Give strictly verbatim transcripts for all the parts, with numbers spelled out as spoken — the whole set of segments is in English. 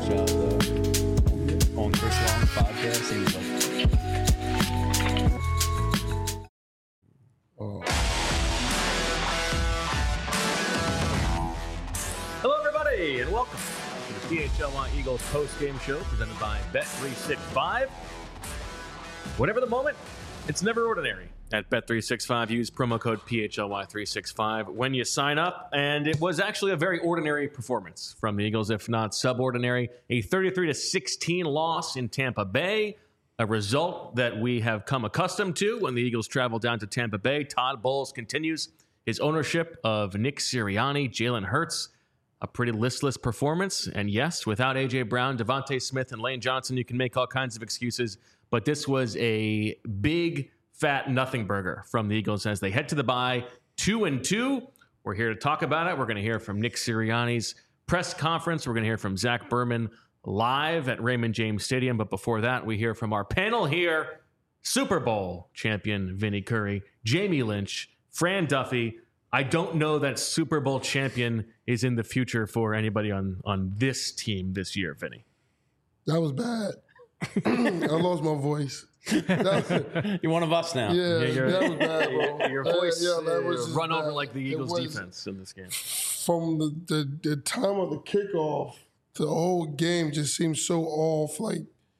shot though on Chris Long's podcast. He was like, oh. Hello, everybody, and welcome to the P H L Y Eagles post-game show presented by Bet three sixty-five. Whatever the moment, it's never ordinary. At Bet three sixty-five, use promo code P H L Y three sixty-five when you sign up. And it was actually a very ordinary performance from the Eagles, if not subordinary. A thirty-three to sixteen loss in Tampa Bay, a result that we have come accustomed to when the Eagles travel down to Tampa Bay. Todd Bowles continues his ownership of Nick Sirianni, Jalen Hurts. A pretty listless performance. And yes, without A J Brown, Devontae Smith, and Lane Johnson, you can make all kinds of excuses. But this was a big, fat nothing burger from the Eagles as they head to the bye, two and two. We're here to talk about it. We're going to hear from Nick Sirianni's press conference. We're going to hear from Zach Berman live at Raymond James Stadium. But before that, we hear from our panel here, Super Bowl champion Vinny Curry, Jamie Lynch, Fran Duffy. I don't know that Super Bowl champion is in the future for anybody on, on this team this year, Vinny. That was bad. I lost my voice. Was, you're one of us now. Yeah, yeah that was bad, bro. Your voice uh, yeah, that was run bad. over like the Eagles was, defense in this game. From the, the, the time of the kickoff, the whole game just seemed so off. Like,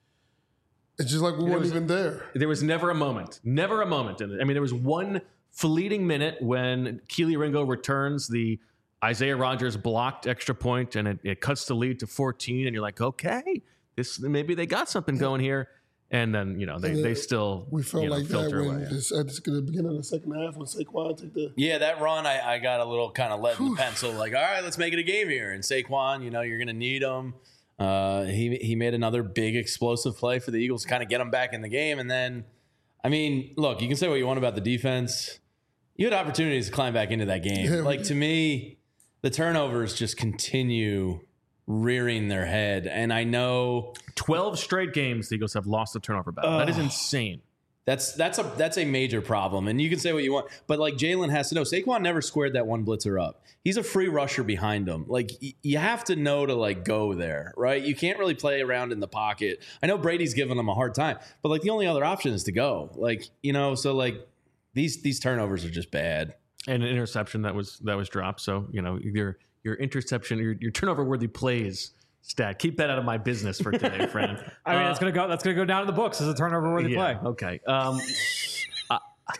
it's just like we weren't was, even there. There was never a moment. Never a moment. In it. I mean, there was one fleeting minute when Keely Ringo returns the Isaiah Rodgers blocked extra point, and it, it cuts the lead to fourteen, and you're like, okay, this maybe they got something going here. And then, you know, they, they still we felt you know, like that when away. this, at the beginning of the second half when Saquon took the yeah, that run, I, I got a little kind of lead in the pencil. Like, all right, let's make it a game here. And Saquon, you know, you're going to need him. Uh, he he made another big explosive play for the Eagles to kind of get him back in the game. And then, I mean, look, you can say what you want about the defense. You had opportunities to climb back into that game. Yeah, like, to me, the turnovers just continue rearing their head. And I know twelve straight games the Eagles have lost the turnover battle. Uh, that is insane. That's that's a that's a major problem. And you can say what you want, but like Jalen has to know, Saquon never squared that one blitzer up. He's a free rusher behind him. Like y- you have to know to like go there, right? You can't really play around in the pocket. I know Brady's giving him a hard time, but like the only other option is to go. Like, you know, so like these these turnovers are just bad. And an interception that was that was dropped. So, you know, your your interception, your, your turnover worthy plays stat. Keep that out of my business for today, friend. I mean, uh, it's gonna go. That's gonna go down in the books as a turnover worthy yeah, play. Okay. Um, uh,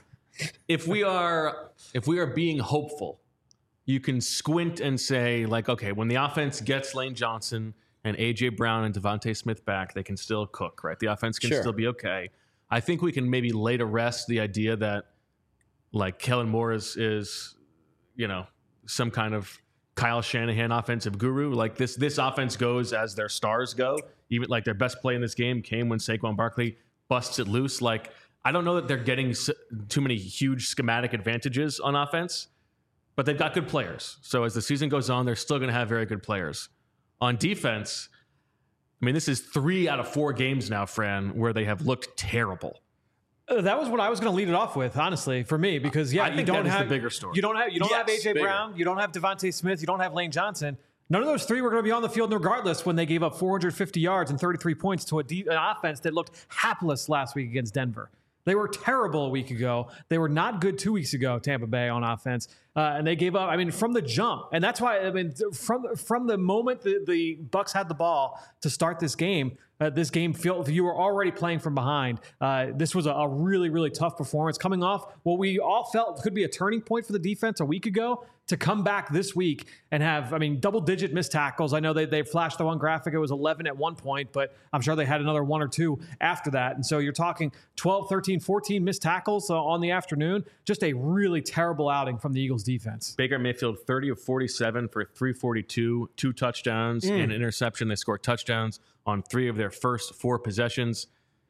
if we are if we are being hopeful, you can squint and say like, okay, when the offense gets Lane Johnson and A J Brown and Devontae Smith back, they can still cook, right? The offense can Sure. still be okay. I think we can maybe lay to rest the idea that like Kellen Moore is is you know some kind of Kyle Shanahan offensive guru. Like this, this offense goes as their stars go. Even like their best play in this game came when Saquon Barkley busts it loose. Like I don't know that they're getting too many huge schematic advantages on offense, but they've got good players. So as the season goes on, they're still going to have very good players. On defense, I mean, this is three out of four games now, Fran, where they have looked terrible. Uh, that was what I was going to lead it off with, honestly, for me, because yeah, I you think don't that is have the bigger story. You don't have you don't Yes, have A J bigger. Brown, you don't have Devontae Smith, you don't have Lane Johnson. None of those three were going to be on the field regardless when they gave up four hundred fifty yards and thirty-three points to a de- an offense that looked hapless last week against Denver. They were terrible a week ago. They were not good two weeks ago, Tampa Bay on offense. Uh, and they gave up, I mean, from the jump. And that's why, I mean, from from the moment the, the Bucks had the ball to start this game, uh, this game, felt you were already playing from behind. Uh, this was a, a really, really tough performance coming off what we all felt could be a turning point for the defense a week ago to come back this week and have, I mean, double-digit missed tackles. I know they, they flashed the one graphic. It was eleven at one point, but I'm sure they had another one or two after that. And so you're talking twelve, thirteen, fourteen missed tackles uh, on the afternoon. Just a really terrible outing from the Eagles defense. Baker Mayfield, thirty of forty-seven for three forty-two, two touchdowns Mm. and an interception. They scored touchdowns on three of their first four possessions.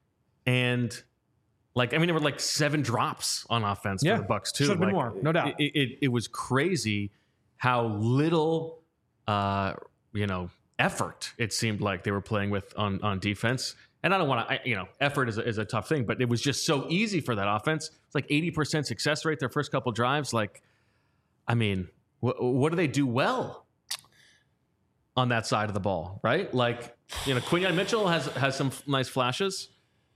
And, like, I mean, there were like seven drops on offense Yeah. for the Bucks, too. Should've been Like, more, no doubt. It, it, it was crazy how little, uh, you know, effort it seemed like they were playing with on, on defense. And I don't want to, you know, effort is a, is a tough thing, but it was just so easy for that offense. It's like eighty percent success rate their first couple drives. Like, I mean, wh- what do they do well? on that side of the ball, right? Like, you know, Quinyon Mitchell has has some f- nice flashes.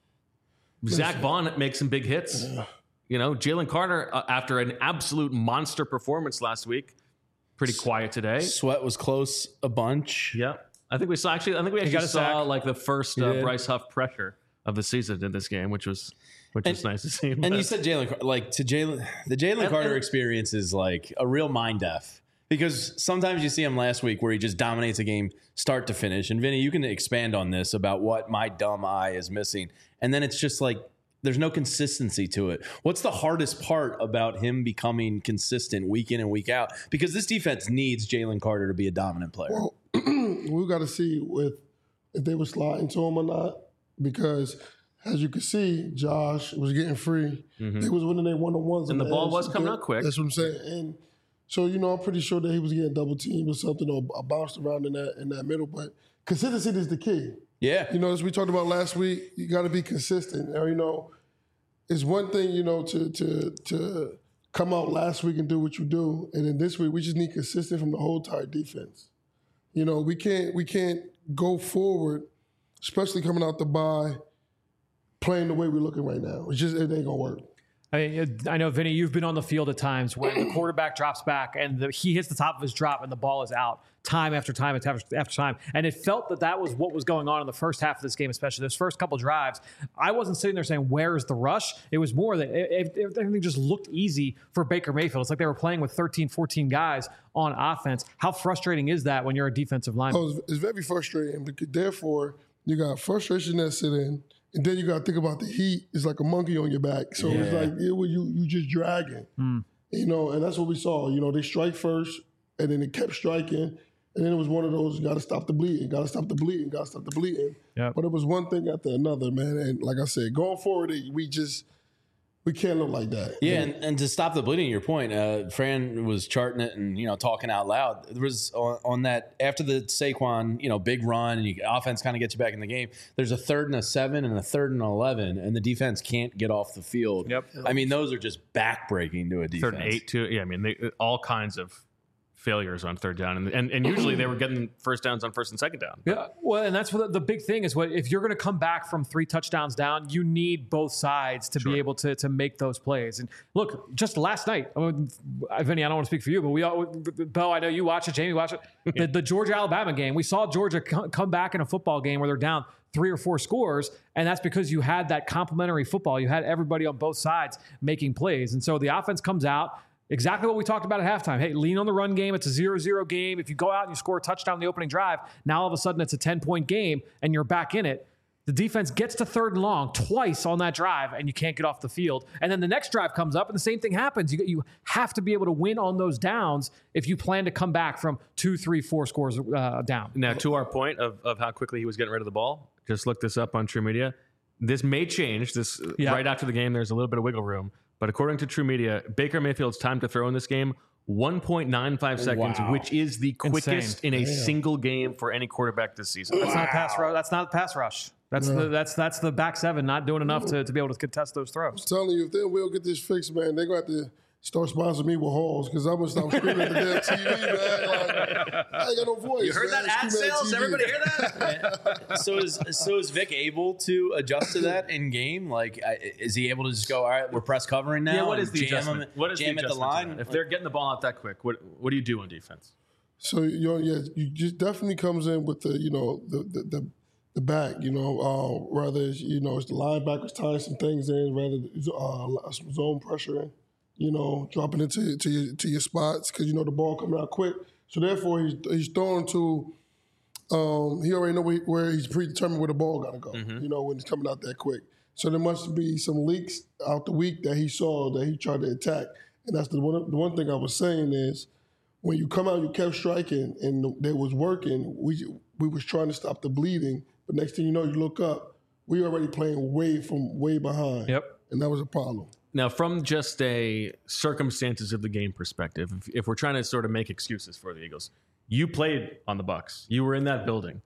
Zach Vaughn makes some big hits. Yeah. You know, Jalen Carter, uh, after an absolute monster performance last week, pretty quiet today. Sweat was close a bunch. Yeah. I think we saw actually. I think we got actually a saw sack. like the first He uh, did. Bryce Huff pressure of the season in this game, which was which was nice to see. And you said Jalen, Car- like to Jalen, the Jalen And- Carter and- experience is like a real mind f because sometimes you see him last week where he just dominates a game start to finish. And Vinny, you can expand on this about what my dumb eye is missing. And then it's just like there's no consistency to it. What's the hardest part about him becoming consistent week in and week out? Because this defense needs Jalen Carter to be a dominant player. Well, we got to see with if they were sliding to him or not, because as you can see, Josh was getting free. They was winning their one on ones, And the ball was coming out quick. That's what I'm saying. And so you know, I'm pretty sure that he was getting double teamed or something, or bounced around in that in that middle. But consistency is the key. Yeah. You know, as we talked about last week, you got to be consistent. Or, you know, it's one thing, you know, to to to come out last week and do what you do, and then this week we just need consistency from the whole entire defense. You know, we can't we can't go forward, especially coming out the bye, playing the way we're looking right now. It's just it ain't gonna work. I mean, I know, Vinny, you've been on the field at times when the quarterback drops back and the, he hits the top of his drop and the ball is out time after time after, after time. And it felt that that was what was going on in the first half of this game, especially those first couple drives. I wasn't sitting there saying, where's the rush? It was more that it, it, everything just looked easy for Baker Mayfield. It's like they were playing with thirteen, fourteen guys on offense. How frustrating is that when you're a defensive lineman? Oh, it's, it's very frustrating because therefore you got frustration that's sitting, and then you got to think about the heat. It's like a monkey on your back. So it's like it, you you just dragging, you know. And that's what we saw. You know, they strike first, and then they kept striking, and then it was one of those. You got to stop the bleeding. Got to stop the bleeding. Got to stop the bleeding. Yep. But it was one thing after another, man. And like I said, going forward, we just we can't look like that. Yeah, and, and to stop the bleeding, your point, uh, Fran was charting it and, you know, talking out loud. There was on, on that, after the Saquon, you know, big run and you, offense kind of gets you back in the game, there's a third and a seven and a third and eleven, and the defense can't get off the field. Yep. I mean, those are just backbreaking to a defense. Third and eight too. Yeah, I mean, they, all kinds of failures on third down, and and, and usually they were getting first downs on first and second down. Yeah, well, and that's what the, the big thing is. What if you're going to come back from three touchdowns down? You need both sides to Sure. be able to to make those plays. And look, just last night, I mean, Vinny, I don't want to speak for you, but we all, Bo, I know you watch it, Jamie watch it. The, the Georgia Alabama game, we saw Georgia co- come back in a football game where they're down three or four scores, and that's because you had that complementary football. You had everybody on both sides making plays, and so the offense comes out. Exactly what we talked about at halftime. Hey, lean on the run game. It's a zero zero game. If you go out and you score a touchdown in the opening drive, now all of a sudden it's a ten-point game and you're back in it. The defense gets to third and long twice on that drive and you can't get off the field. And then the next drive comes up and the same thing happens. You, you have to be able to win on those downs if you plan to come back from two, three, four scores uh, down. Now, to our point of, of how quickly he was getting rid of the ball, just look this up on True Media. This may change. This Yeah. right after the game, there's a little bit of wiggle room. But according to True Media, Baker Mayfield's time to throw in this game, one point nine five seconds, Wow. which is the quickest in a single game for any quarterback this season. That's not pass rush. That's not pass rush. That's the that's that's the back seven not doing enough to, to be able to contest those throws. I'm telling you, if they will get this fixed, man, they're going to have to start sponsoring me with halls because I'm going to stop screaming at the damn T V, man. Like, I ain't got no voice. You heard man. that ad Screaming at sales? T V. Everybody hear that? so is so is Vic able to adjust to that in game? Like, I- is he able to just go, all right, we're press covering now? Yeah, what and is the jam adjustment? him- What is jam the at the adjustment to line? that? If they're getting the ball out that quick, what what do you do on defense? So you know, yeah, you just definitely comes in with the you know the the the, the back. You know, uh, rather it's, you know it's the linebackers tying some things in, rather uh, some zone pressure in. You know, dropping into to your to your spots because you know the ball coming out quick. So therefore, he's he's throwing to. Um, he already know where, where he's predetermined where the ball got to go. You know, when it's coming out that quick. So there must be some leaks out the week that he saw that he tried to attack. And that's the one. The one thing I was saying is, when you come out, you kept striking, and they was working. We we was trying to stop the bleeding, but next thing you know, you look up, we already playing way from way behind. Yep. And that was a problem. Now, from just a circumstances of the game perspective, if, if we're trying to sort of make excuses for the Eagles, you played on the Bucs. You were in that building.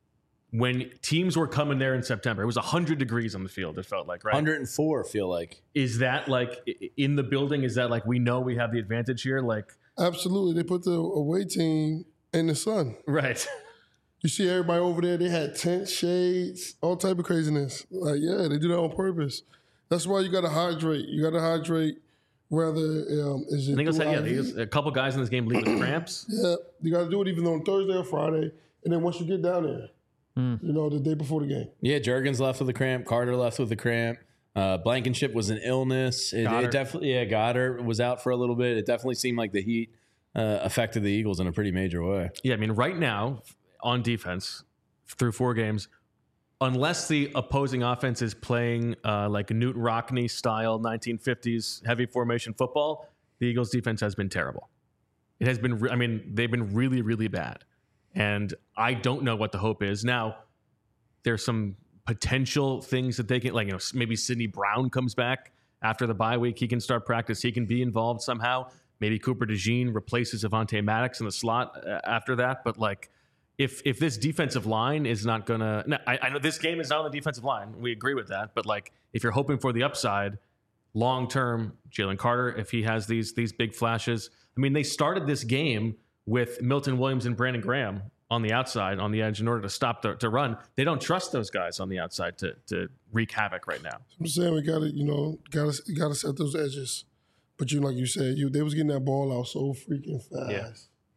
When teams were coming there in September, it was one hundred degrees on the field, it felt like, right? one hundred four, feel like. Is that like i- in the building? Is that like we know we have the advantage here? Like, Absolutely. They put the away team in the sun. Right. You see everybody over there, they had tent shades, all type of craziness. Like, yeah, they do that on purpose. That's why you got to hydrate. You got to hydrate whether um, is it I think I through said, yeah, I V? there's a couple guys in this game leave with cramps. Yeah, you got to do it even on Thursday or Friday. And then once you get down there, mm. you know, the day before the game. Yeah, Juergens left with a cramp. Carter left with a cramp. Uh, Blankenship was an illness. It, it definitely, yeah, Goddard was out for a little bit. It definitely seemed like the heat uh, affected the Eagles in a pretty major way. Yeah, I mean, right now on defense through four games, unless the opposing offense is playing uh, like Newt Rockne style nineteen fifties heavy formation football, the Eagles defense has been terrible. It has been, re- I mean, they've been really, really bad. And I don't know what the hope is. Now, there's some potential things that they can, like, you know, maybe Sidney Brown comes back after the bye week. He can start practice. He can be involved somehow. Maybe Cooper DeJean replaces Avonte Maddox in the slot after that. But, like, if if this defensive line is not going to, I, I know this game is not on the defensive line. We agree with that. But, like, if you're hoping for the upside, long-term, Jalen Carter, if he has these these big flashes. I mean, they started this game with Milton Williams and Brandon Graham on the outside, on the edge, in order to stop the to run. They don't trust those guys on the outside to to wreak havoc right now. I'm saying we got to, you know, got to got to set those edges. But you, like you said, you they was getting that ball out so freaking fast. Yeah.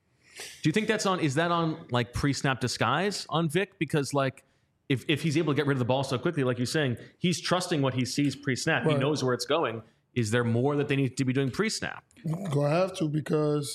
Do you think that's on? Is that on like pre-snap disguise on Vic? Because like, if if he's able to get rid of the ball so quickly, like you're saying, he's trusting what he sees pre-snap. Right. He knows where it's going. Is there more that they need to be doing pre-snap? Gonna have to, because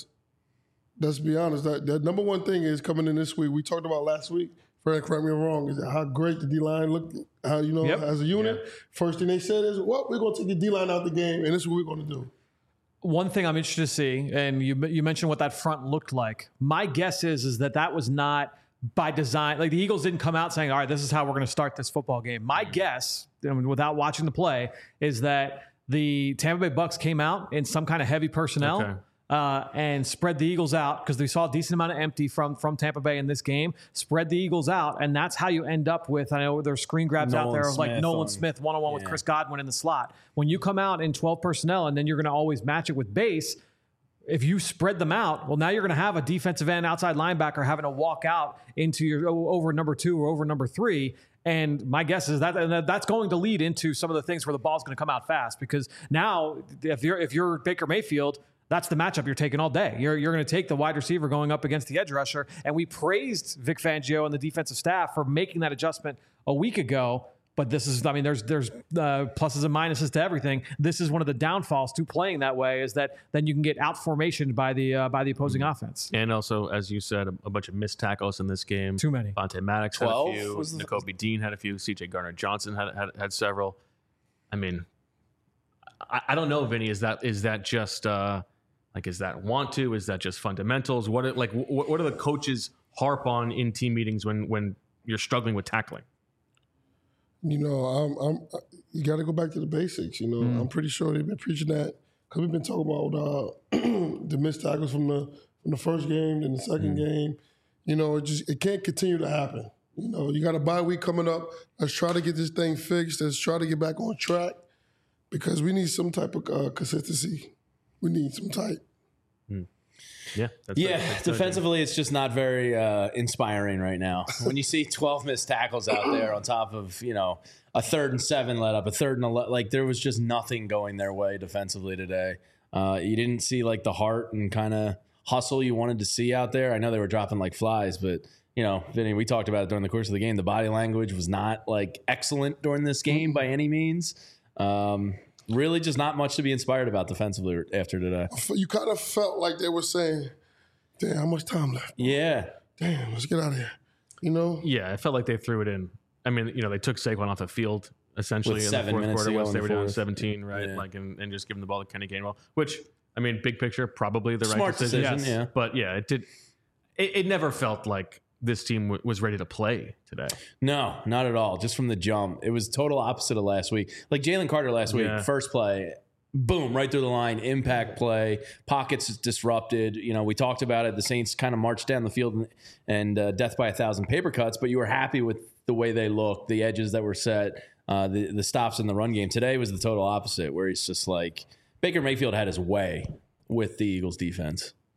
let's be honest, that, that number one thing is coming in this week. We talked about last week. Fred, correct me if I'm wrong. Is how great the D line looked. How, you know, yep. as a unit. Yeah. First thing they said is, "Well, we're going to take the D line out the game, and this is what we're going to do." One thing I'm interested to see, and you you mentioned what that front looked like. My guess is is that that was not by design. Like, the Eagles didn't come out saying, "All right, this is how we're going to start this football game." My guess, I mean, without watching the play, is that the Tampa Bay Bucks came out in some kind of heavy personnel. Okay. Uh, and spread the Eagles out, because they saw a decent amount of empty from from Tampa Bay in this game. Spread the Eagles out, and that's how you end up with, I know there's screen grabs Nolan out there of like Smith Nolan on, Smith one-on-one yeah. with Chris Godwin in the slot. When you come out in twelve personnel, and then you're going to always match it with base, if you spread them out, well, now you're going to have a defensive end outside linebacker having to walk out into your over number two or over number three. And my guess is that that's going to lead into some of the things where the ball's going to come out fast, because now if you're if you're Baker Mayfield, that's the matchup you're taking all day. You're you're going to take the wide receiver going up against the edge rusher. And we praised Vic Fangio and the defensive staff for making that adjustment a week ago. But this is, I mean, there's there's uh, pluses and minuses to everything. This is one of the downfalls to playing that way, is that then you can get out formationed by the uh, by the opposing mm-hmm. offense. And also, as you said, a, a bunch of missed tackles in this game. Too many. Avonte Maddox had a few. Nakobe Dean had a few. C J Gardner-Johnson had, had had several. I mean, I, I don't know, Vinny. Is that is that just uh, like is that want to? Is that just fundamentals? What are, like what, what are the coaches harp on in team meetings when when you're struggling with tackling? You know, I'm, I'm, you got to go back to the basics. You know, mm. I'm pretty sure they've been preaching that, because we've been talking about uh, the missed tackles from the from the first game and the second mm. game. You know, it just it can't continue to happen. You know, you got a bye week coming up. Let's try to get this thing fixed. Let's try to get back on track, because we need some type of uh, consistency. We need some type. Mm. Yeah, that's yeah. That's defensively, it's just not very uh, inspiring right now. When you see twelve missed tackles out there on top of, you know, a third and seven let up, a third and eleven, like there was just nothing going their way defensively today. Uh, you didn't see like the heart and kind of hustle you wanted to see out there. I know they were dropping like flies, but you know, Vinny, we talked about it during the course of the game. The body language was not like excellent during this game by any means. Um, Really just not much to be inspired about defensively after today. You kind of felt like they were saying, damn, how much time left? Yeah. Damn, let's get out of here. You know? Yeah, I felt like they threw it in. I mean, you know, they took Saquon off the field essentially With in seven the fourth quarter once they were down seventeen, yeah. right? Yeah. Like, and, and just giving the ball to Kenny Gainwell, which, I mean, big picture, probably the Smart right decision. decision yes. yeah. But yeah, it did. It, it never felt like this team w- was ready to play today. No, not at all. Just from the jump. It was total opposite of last week. Like Jalen Carter last week, yeah. first play, boom, right through the line, impact play, pockets disrupted. You know, we talked about it. The Saints kind of marched down the field and, and uh, death by a thousand paper cuts, but you were happy with the way they looked, the edges that were set, uh, the, the stops in the run game. Today was the total opposite, where he's just like, Baker Mayfield had his way with the Eagles defense.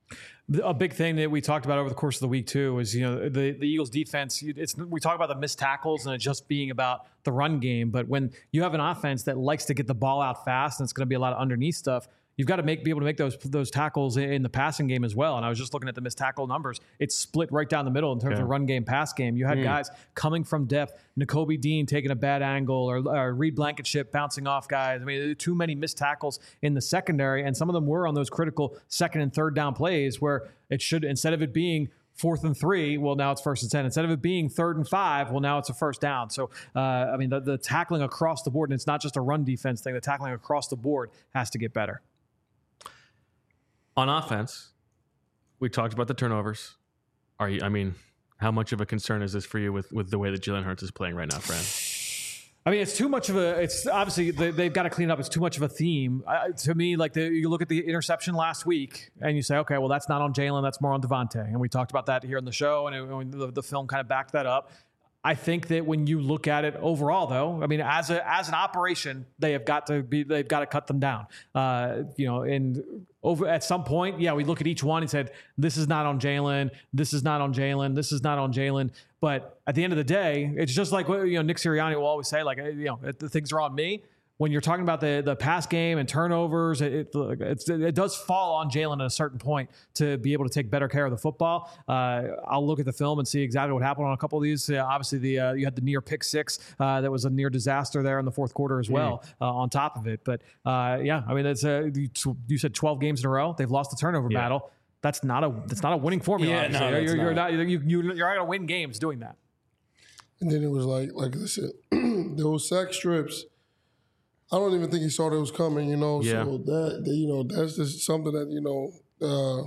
A big thing that we talked about over the course of the week too is, you know, the, the Eagles defense, it's, we talk about the missed tackles and it just being about the run game. But when you have an offense that likes to get the ball out fast and it's going to be a lot of underneath stuff, you've got to make be able to make those those tackles in the passing game as well. And I was just looking at the missed tackle numbers. It's split right down the middle in terms yeah. of run game, pass game. You had mm. guys coming from depth, Nakobe Dean taking a bad angle, or, or Reed Blankenship bouncing off guys. I mean, too many missed tackles in the secondary, and some of them were on those critical second and third down plays where it should, instead of it being fourth and three, well, now it's first and ten. Instead of it being third and five, well, now it's a first down. So, uh, I mean, the, the tackling across the board, and it's not just a run defense thing, the tackling across the board has to get better. On offense, we talked about the turnovers. Are you? I mean, how much of a concern is this for you with, with the way that Jalen Hurts is playing right now, Fran? I mean, it's too much of a. It's obviously they, they've got to clean it up. It's too much of a theme uh, to me. Like the, you look at the interception last week, and you say, okay, well, that's not on Jalen. That's more on Devontae. And we talked about that here in the show, and it, the, the film kind of backed that up. I think that when you look at it overall, though, I mean, as a as an operation, they have got to be they've got to cut them down. Uh, you know, and over at some point, yeah, we look at each one and said, this is not on Jalen, this is not on Jalen, this is not on Jalen. But at the end of the day, it's just like, you know, Nick Sirianni will always say, like, you know, the things are on me. When you're talking about the the pass game and turnovers, it it, it's, it does fall on Jalen at a certain point to be able to take better care of the football. Uh, I'll look at the film and see exactly what happened on a couple of these. Uh, obviously, the uh, you had the near pick six uh, that was a near disaster there in the fourth quarter as well. Mm. Uh, on top of it, but uh, yeah, I mean, it's a, you said twelve games in a row they've lost the turnover yeah. battle. That's not a that's not a winning formula. Yeah, no, you're, you're not. not you you you're not gonna win games doing that. And then it was like like I said, those sack strips. I don't even think he saw that was coming, you know. Yeah. So that, that, you know, that's just something that, you know, uh,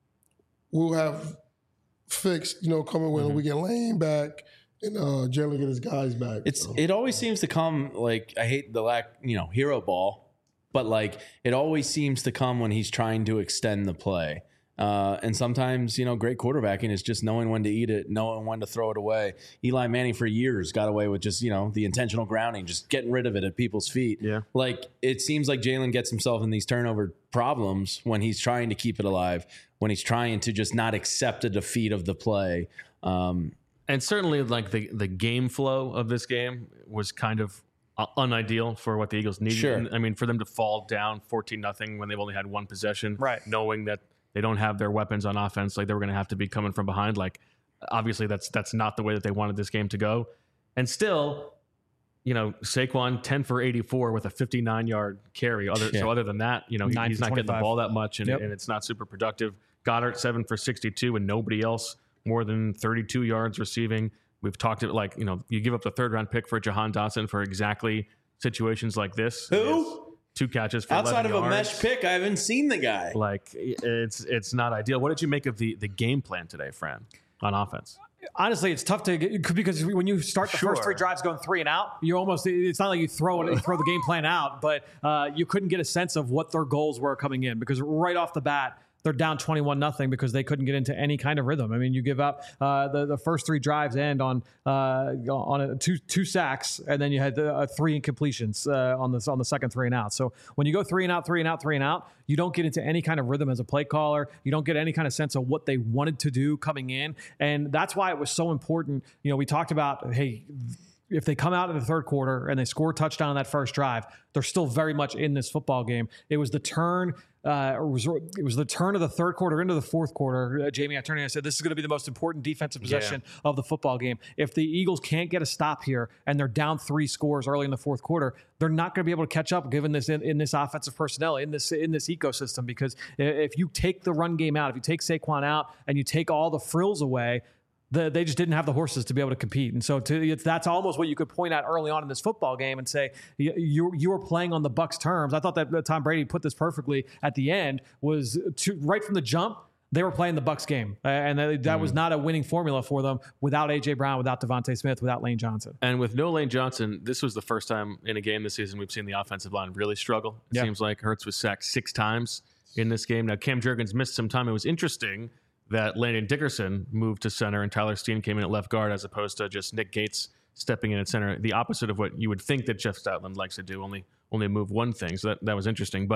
we'll have fixed, you know, coming when mm-hmm. we get Lane back and uh, Jalen get his guys back. It's so. It always seems to come, like, I hate the lack, you know, hero ball, but, like, it always seems to come when he's trying to extend the play. Uh, and sometimes, you know, great quarterbacking is just knowing when to eat it, knowing when to throw it away. Eli Manning for years got away with just, you know, the intentional grounding, just getting rid of it at people's feet. Yeah. Like, it seems like Jalen gets himself in these turnover problems when he's trying to keep it alive, when he's trying to just not accept a defeat of the play. Um, and certainly, like, the, the game flow of this game was kind of uh, unideal for what the Eagles needed. Sure. I mean, for them to fall down fourteen nothing when they've only had one possession, right? Knowing that they don't have their weapons on offense, like they were going to have to be coming from behind. Like, obviously, that's that's not the way that they wanted this game to go. And still, you know, Saquon ten for eighty-four with a fifty-nine yard carry. Other yeah. So other than that, you know, he, he's not getting the ball that much, and, yep. and it's not super productive. Goddard seven for sixty-two, and nobody else more than thirty-two yards receiving. We've talked about, like, you know, you give up the third round pick for Jahan Dotson for exactly situations like this. Who? Two catches for outside of yards. A mesh pick. I haven't seen the guy. Like, it's it's not ideal. What did you make of the the game plan today, Fran, on offense? Honestly, it's tough to get, because when you start the sure. first three drives going three and out, you almost, it's not like you throw it, you throw the game plan out, but uh, you couldn't get a sense of what their goals were coming in, because right off the bat, they're down twenty-one nothing because they couldn't get into any kind of rhythm. I mean, you give up uh, the the first three drives end on uh, on a, two two sacks, and then you had the, uh, three incompletions uh, on the on the second three and out. So when you go three and out, three and out, three and out, you don't get into any kind of rhythm as a play caller. You don't get any kind of sense of what they wanted to do coming in, and that's why it was so important. You know, we talked about, hey, if they come out in the third quarter and they score a touchdown on that first drive, they're still very much in this football game. It was the turn. Uh, it, was, it was the turn of the third quarter into the fourth quarter. Uh, Jamie, I turned and I said, this is going to be the most important defensive possession yeah. of the football game. If the Eagles can't get a stop here and they're down three scores early in the fourth quarter, they're not going to be able to catch up given this in, in this offensive personnel, in this in this ecosystem. Because if you take the run game out, if you take Saquon out and you take all the frills away, The, they just didn't have the horses to be able to compete. And so to, it's, that's almost what you could point out early on in this football game and say, you, you, you were playing on the Bucs' terms. I thought that Tom Brady put this perfectly at the end, was to, right from the jump, they were playing the Bucs game. Uh, and that, that mm. was not a winning formula for them without A J Brown, without Devontae Smith, without Lane Johnson. And with no Lane Johnson, this was the first time in a game this season we've seen the offensive line really struggle. It yeah. seems like Hurts was sacked six times in this game. Now, Cam Jurgens missed some time. It was interesting that Landon Dickerson moved to center and Tyler Steen came in at left guard, as opposed to just Nick Gates stepping in at center. The opposite of what you would think that Jeff Stoutland likes to do, only only move one thing. So that, that was interesting. But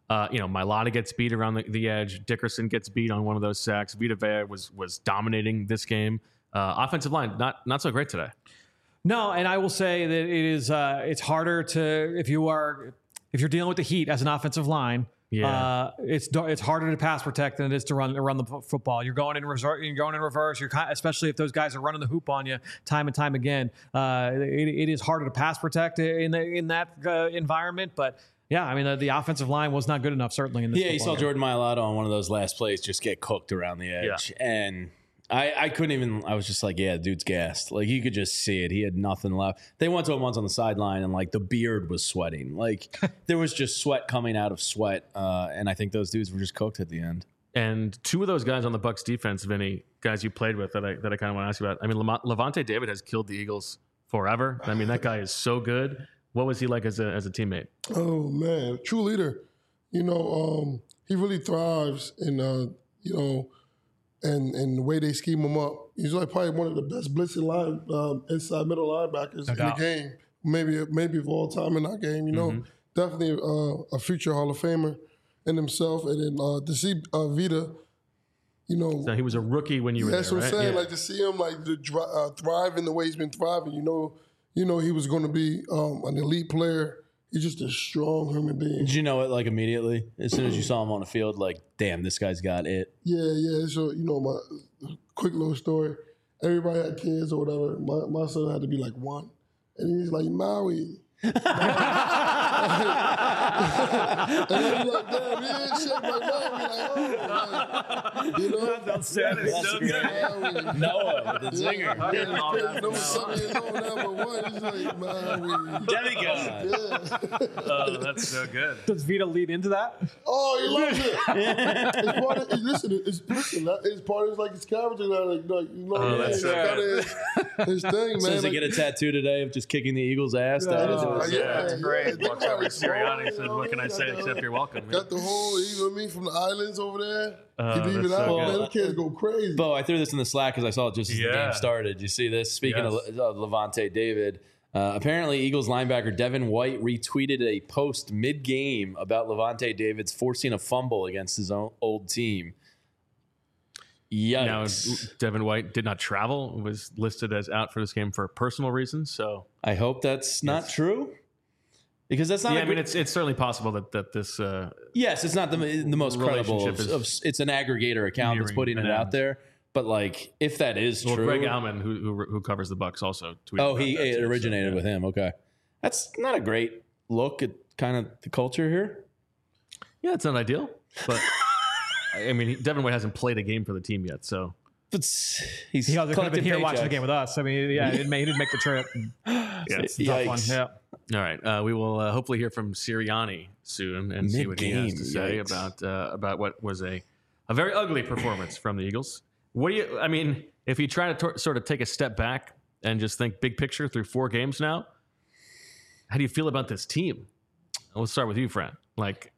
Uh, you know, Mailata gets beat around the, the edge. Dickerson gets beat on one of those sacks. Vita Vea was was dominating this game. Uh, offensive line, not not so great today. No, and I will say that it is uh, it's harder to if you are if you're dealing with the Heat as an offensive line. Yeah. Uh, it's it's harder to pass protect than it is to run to run the football. You're going in reverse. You're going in reverse. You're kind, especially if those guys are running the hoop on you time and time again. Uh, it, it is harder to pass protect in the, in that uh, environment. But yeah, I mean the, the offensive line was not good enough certainly in this. Yeah, you saw game. Jordan Mailata on one of those last plays just get cooked around the edge, Yeah. and I, I couldn't even. I was just like, yeah, dude's gassed. Like you could just see it. He had nothing left. They went to him once on the sideline, and like the beard was sweating. Like there was just sweat coming out of sweat, uh, and I think those dudes were just cooked at the end. And two of those guys on the Bucs defense, Vinny, guys you played with that I that I kind of want to ask you about. I mean, Lam- Levante David has killed the Eagles forever. I mean, that guy is so good. What was he like as a as a teammate? Oh man, true leader. You know, um, he really thrives in uh, you know, and and the way they scheme him up. He's like probably one of the best blitzing line um, inside middle linebackers No in doubt. the game. Maybe maybe of all time in that game. You know, Mm-hmm. definitely uh, a future Hall of Famer in himself. And then uh, to see uh, Vita, you know, So he was a rookie when you were that's there, what I'm right? saying. Yeah. Like to see him like to dri- uh, thrive in the way he's been thriving. You know, you know he was going to be um, an elite player. He's just a strong human being. Did you know it like immediately as soon as you saw him on the field? Like, damn, this guy's got it. Yeah, yeah. So you know, my quick little story. Everybody had kids or whatever. My my son had to be like one, and he's like Maui. And I was like, damn, he ain't shaped like Maui. Like, oh, like, you know, That's so good. Maui. Noah, the Yeah, zinger. yeah, number seven years old, number one. He's like Maui. Demigod. Yeah. Oh, that's so good. Does Vita lead into that? Oh, he loves it. It's part of, it's, listen, it's, listen, that- it's part of his, like his character. Like, like, you know, Oh, what I that's mean? so It's kind of his, his thing, man. So does he Like, get a tattoo today of just kicking the Eagles' ass? Yeah. down Oh, into his- yeah, Yeah, it's yeah. great. Think Walks about over to it, small, Sirianni and you said, know, "What can I got say the- except you're welcome?" Got the whole, you know what I mean, from the islands over there. Oh, he leave that's it out, so man. good. The kids go crazy. Bo, I threw this in the Slack because I saw it just as the Yeah. game started. You see this? Speaking Yes. of uh, Levante David, uh, apparently Eagles linebacker Devin White retweeted a post mid-game about Levante David's forcing a fumble against his own old team. Now, Yikes. Devin White did not travel, was listed as out for this game for personal reasons. So, I hope that's not true. Because that's not. yeah, a I mean, gr- it's it's certainly possible that that this. Uh, yes, it's not the the most credible. Of, Relationship is of, it's an aggregator account that's nearing putting an it out end. there. But like, if that is well, true, Greg Allman, who, who who covers the Bucks, also tweeted. oh, about he that it too, so, originated yeah. with him. Okay, that's not a great look at kind of the culture here. Yeah, it's not ideal, but I mean, he, Devin White hasn't played a game for the team yet, so But he's He could have been collecting here watching the paychecks. game with us. I mean, yeah, he didn't make, he didn't make the trip. yeah. It's a tough one. Yikes. Yeah. All right, uh, we will uh, hopefully hear from Sirianni soon and see what he has Mid-game, to say yikes. about uh, about what was a a very ugly performance from the Eagles. What do you? I mean, if you try to tor- sort of take a step back and just think big picture through four games now, how do you feel about this team? Let's start with you, Fran. Like,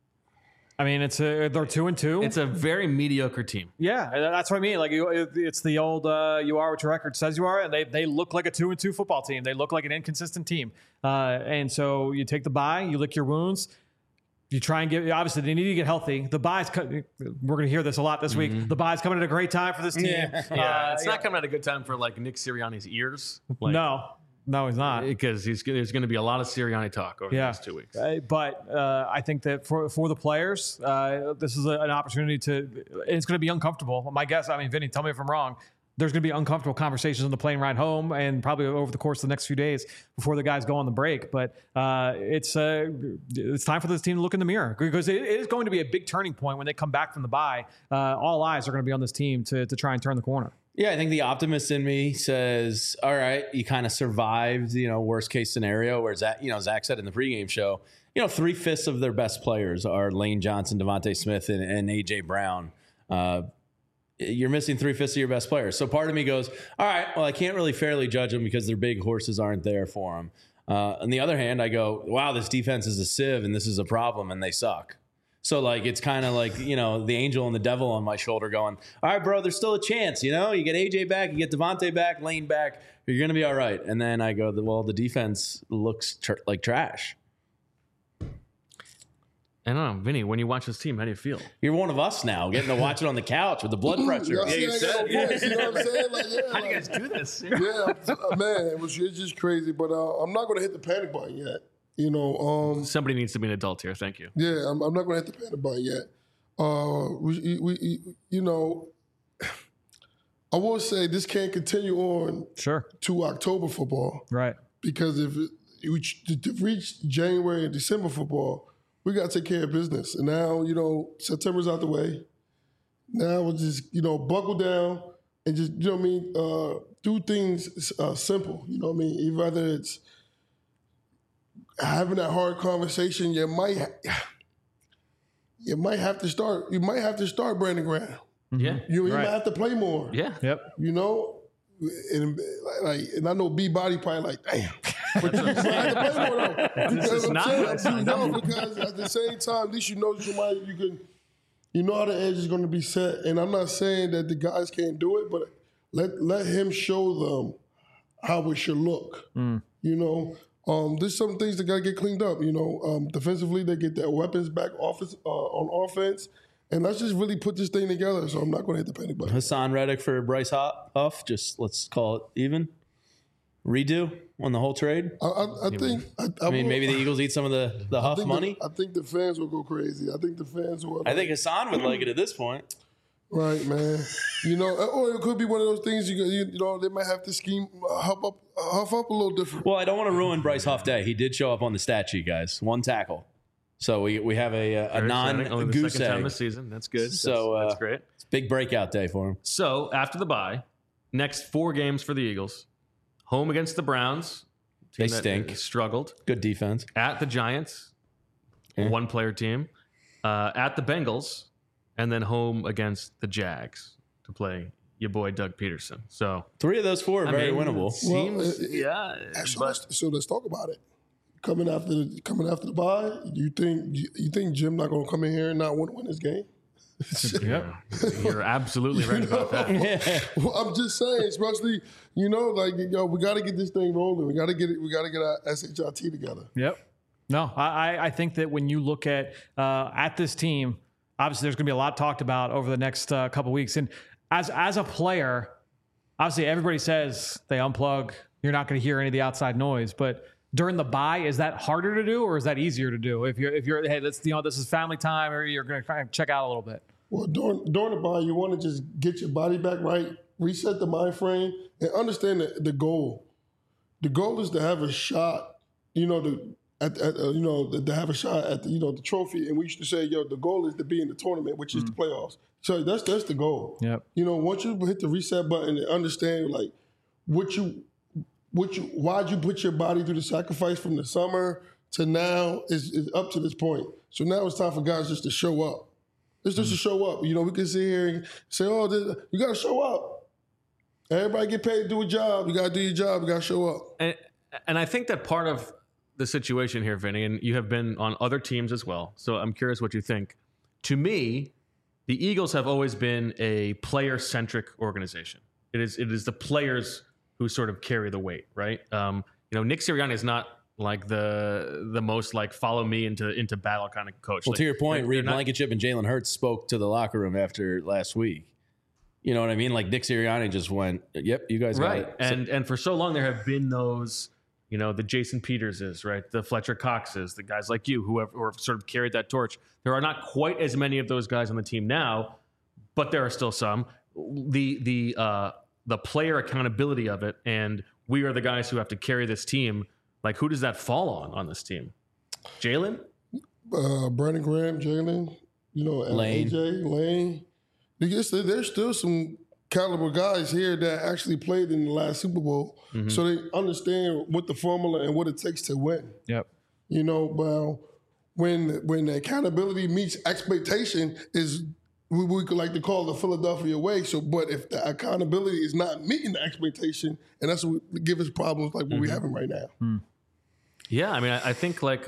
I mean, it's a, they're two and two. it's a very mediocre team. Yeah, that's what I mean. Like you- it- it's the old uh, "you are what your record says you are," and they they look like a two and two football team. They look like an inconsistent team, uh, and so you take the bye, you lick your wounds, you try and get. Obviously, they need to get healthy. The bye's co- we're going to hear this a lot this week. The bye's coming at a great time for this team. Yeah. Yeah, Uh, it's not coming at a good time for like Nick Sirianni's ears. Like, no, no, he's not. because he's there's going to be a lot of Sirianni talk over Yeah. the next two weeks. Uh, but uh, I think that for for the players, uh, this is a, an opportunity to. It's going to be uncomfortable. My guess. I mean, Vinny, tell me if I'm wrong. There's going to be uncomfortable conversations on the plane ride home, and probably over the course of the next few days before the guys go on the break. But uh, it's uh, it's time for this team to look in the mirror because it is going to be a big turning point when they come back from the bye. Uh, all eyes are going to be on this team to to try and turn the corner. Yeah, I think the optimist in me says, all right, you kind of survived, you know, worst case scenario where Zach, you know, Zach said in the pregame show, you know, three fifths of their best players are Lane Johnson, Devontae Smith, and, and A J Brown. Uh, you're missing three fifths of your best players. So part of me goes, all right, well, I can't really fairly judge them because their big horses aren't there for them. Uh, on the other hand, I go, wow, this defense is a sieve and this is a problem and they suck. So, like, it's kind of like, you know, the angel and the devil on my shoulder going, all right, bro, there's still a chance, you know? You get A J back, you get Devontae back, Lane back, you're going to be all right. And then I go, well, the defense looks tr- like trash. I don't know, Vinny, when you watch this team, how do you feel? You're one of us now, getting to watch it on the couch with the blood pressure. Yeah, you you said- said, voice, you know what I'm saying? Like, yeah, How do you like, guys do this? yeah, uh, man, it was it's just crazy. But uh, I'm not going to hit the panic button yet. You know, um, Somebody needs to be an adult here. Thank you. yeah, I'm, I'm not going to hit the panic button yet. Uh, we, we, you know, I will say this can't continue on Sure. to October football Right. because if it, we to, to reach January and December football, we got to take care of business. And now, you know, September's out the way. Now we'll just, you know, buckle down and just, you know what I mean, uh, do things uh, simple. You know what I mean? Whether it's having that hard conversation, you might ha- you might have to start. You might have to start Brandon Graham. Yeah. You, you Right. might have to play more. Yeah. Yep. You know, and like, and I know B Body probably like, damn. But you might have to play more though. Because is I'm not- saying, that's you not know, because at the same time, at least you know you might you can, you know how the edge is going to be set. And I'm not saying that the guys can't do it, but let let him show them how it should look. You know, um, there's some things that got to get cleaned up. You know, um, defensively they get their weapons back offense uh, on offense, and let's just really put this thing together. So I'm not going to hit the panic button. Hassan Reddick for Bryce Huff. Just let's call it even. Redo on the whole trade. I, I, I think. I, I, I mean, will- maybe the Eagles eat some of the, the I Huff think money. The, I think the fans will go crazy. I think the fans will. I think Hassan would like it at this point. Right, man. You know, or it could be one of those things. You, you, you know, they might have to scheme, uh, huff up, uh, huff up a little different. Well, I don't want to ruin Bryce Huff Day. He did show up on the stat sheet, guys. One tackle. So we we have a, a Very non exciting. Only the goose second time egg. this season. That's good. So, that's, uh, that's great. It's a big breakout day for him. So after the bye, next four games for the Eagles: home against the Browns, They team that stink. struggled; Good defense. at the Giants, Yeah. one player team; uh, at the Bengals, and then home against the Jags to play your boy Doug Peterson. So Three of those four are I very mean, winnable. Seems Well, it- it- yeah, So, but let's, so let's talk about it. Coming after the coming after the bye, you think you, you think Jim not going to come in here and not want to win this game? Yep. you're absolutely right about that. Well, I'm just saying, especially you know, like yo, we got to get this thing rolling. We got to get it. We got to get our S H I T together. Yep. No, I, I- I think that when you look at uh, at this team, obviously there's going to be a lot talked about over the next uh, couple weeks. And as as a player, obviously everybody says they unplug. You're not going to hear any of the outside noise. But during the bye, is that harder to do or is that easier to do? If you're if you're hey, let's you know this is family time, or you're going to kind of check out a little bit. Well, during during the bye, you want to just get your body back right, reset the mind frame, and understand the, the goal. The goal is to have a shot. You know, the at, at uh, you know to have a shot at the, you know the trophy. And we used to say, yo, the goal is to be in the tournament, which is the playoffs. So that's that's the goal. Yep. You know, once you hit the reset button and understand like what you what you why'd you put your body through the sacrifice from the summer to now is, is up to this point. So now it's time for guys just to show up. It's just to show up. You know, we can sit here and say, oh, this, you got to show up. Everybody get paid to do a job. You got to do your job. You got to show up. And, and I think that part of the situation here, Vinny, and you have been on other teams as well, so I'm curious what you think. To me, the Eagles have always been a player-centric organization. It is it is the players who sort of carry the weight, right? Um, you know, Nick Sirianni is not like the the most like follow me into into battle kind of coach. Well, Like, to your point, they're- Reed they're not- Blankenship and Jalen Hurts spoke to the locker room after last week. You know what I mean? Like Nick Sirianni just went, "Yep, you guys got right, it." and and for so long there have been those, you know, the Jason Peterses, right, the Fletcher Coxes, the guys like you who have, who have sort of carried that torch. There are not quite as many of those guys on the team now, but there are still some. The the uh, the player accountability of it, and we are the guys who have to carry this team. Like, who does that fall on on this team? Jalen? Uh, Brandon Graham, Jalen, you know, and Lane. A J, Lane. There's, there's still some caliber guys here that actually played in the last Super Bowl, so they understand what the formula and what it takes to win. Yep. You know, well, when when the accountability meets expectation is we, we could like to call the Philadelphia way. So, but if the accountability is not meeting the expectation, and that's what give us problems like what we having right now. Yeah, I mean, I, I think like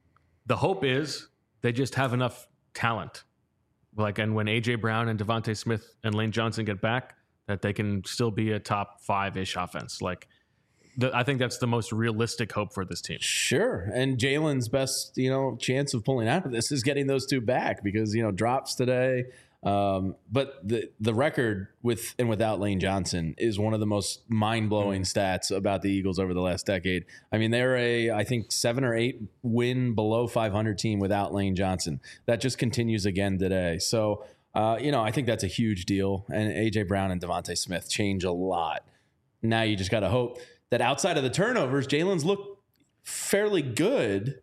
the hope is they just have enough talent. Like, and when A J Brown and Devontae Smith and Lane Johnson get back, that they can still be a top five ish offense. Like, the, I think that's the most realistic hope for this team. Sure. And Jalen's best, you know, chance of pulling out of this is getting those two back because, you know, drops today. Um, but the the record with and without Lane Johnson is one of the most mind-blowing mm. stats about the Eagles over the last decade. I mean, they're a, I think, seven or eight win below five hundred team without Lane Johnson. That just continues again today. So, uh, you know, I think that's a huge deal. And A J Brown and Devontae Smith change a lot. Now you just got to hope that outside of the turnovers, Jalen's looked fairly good.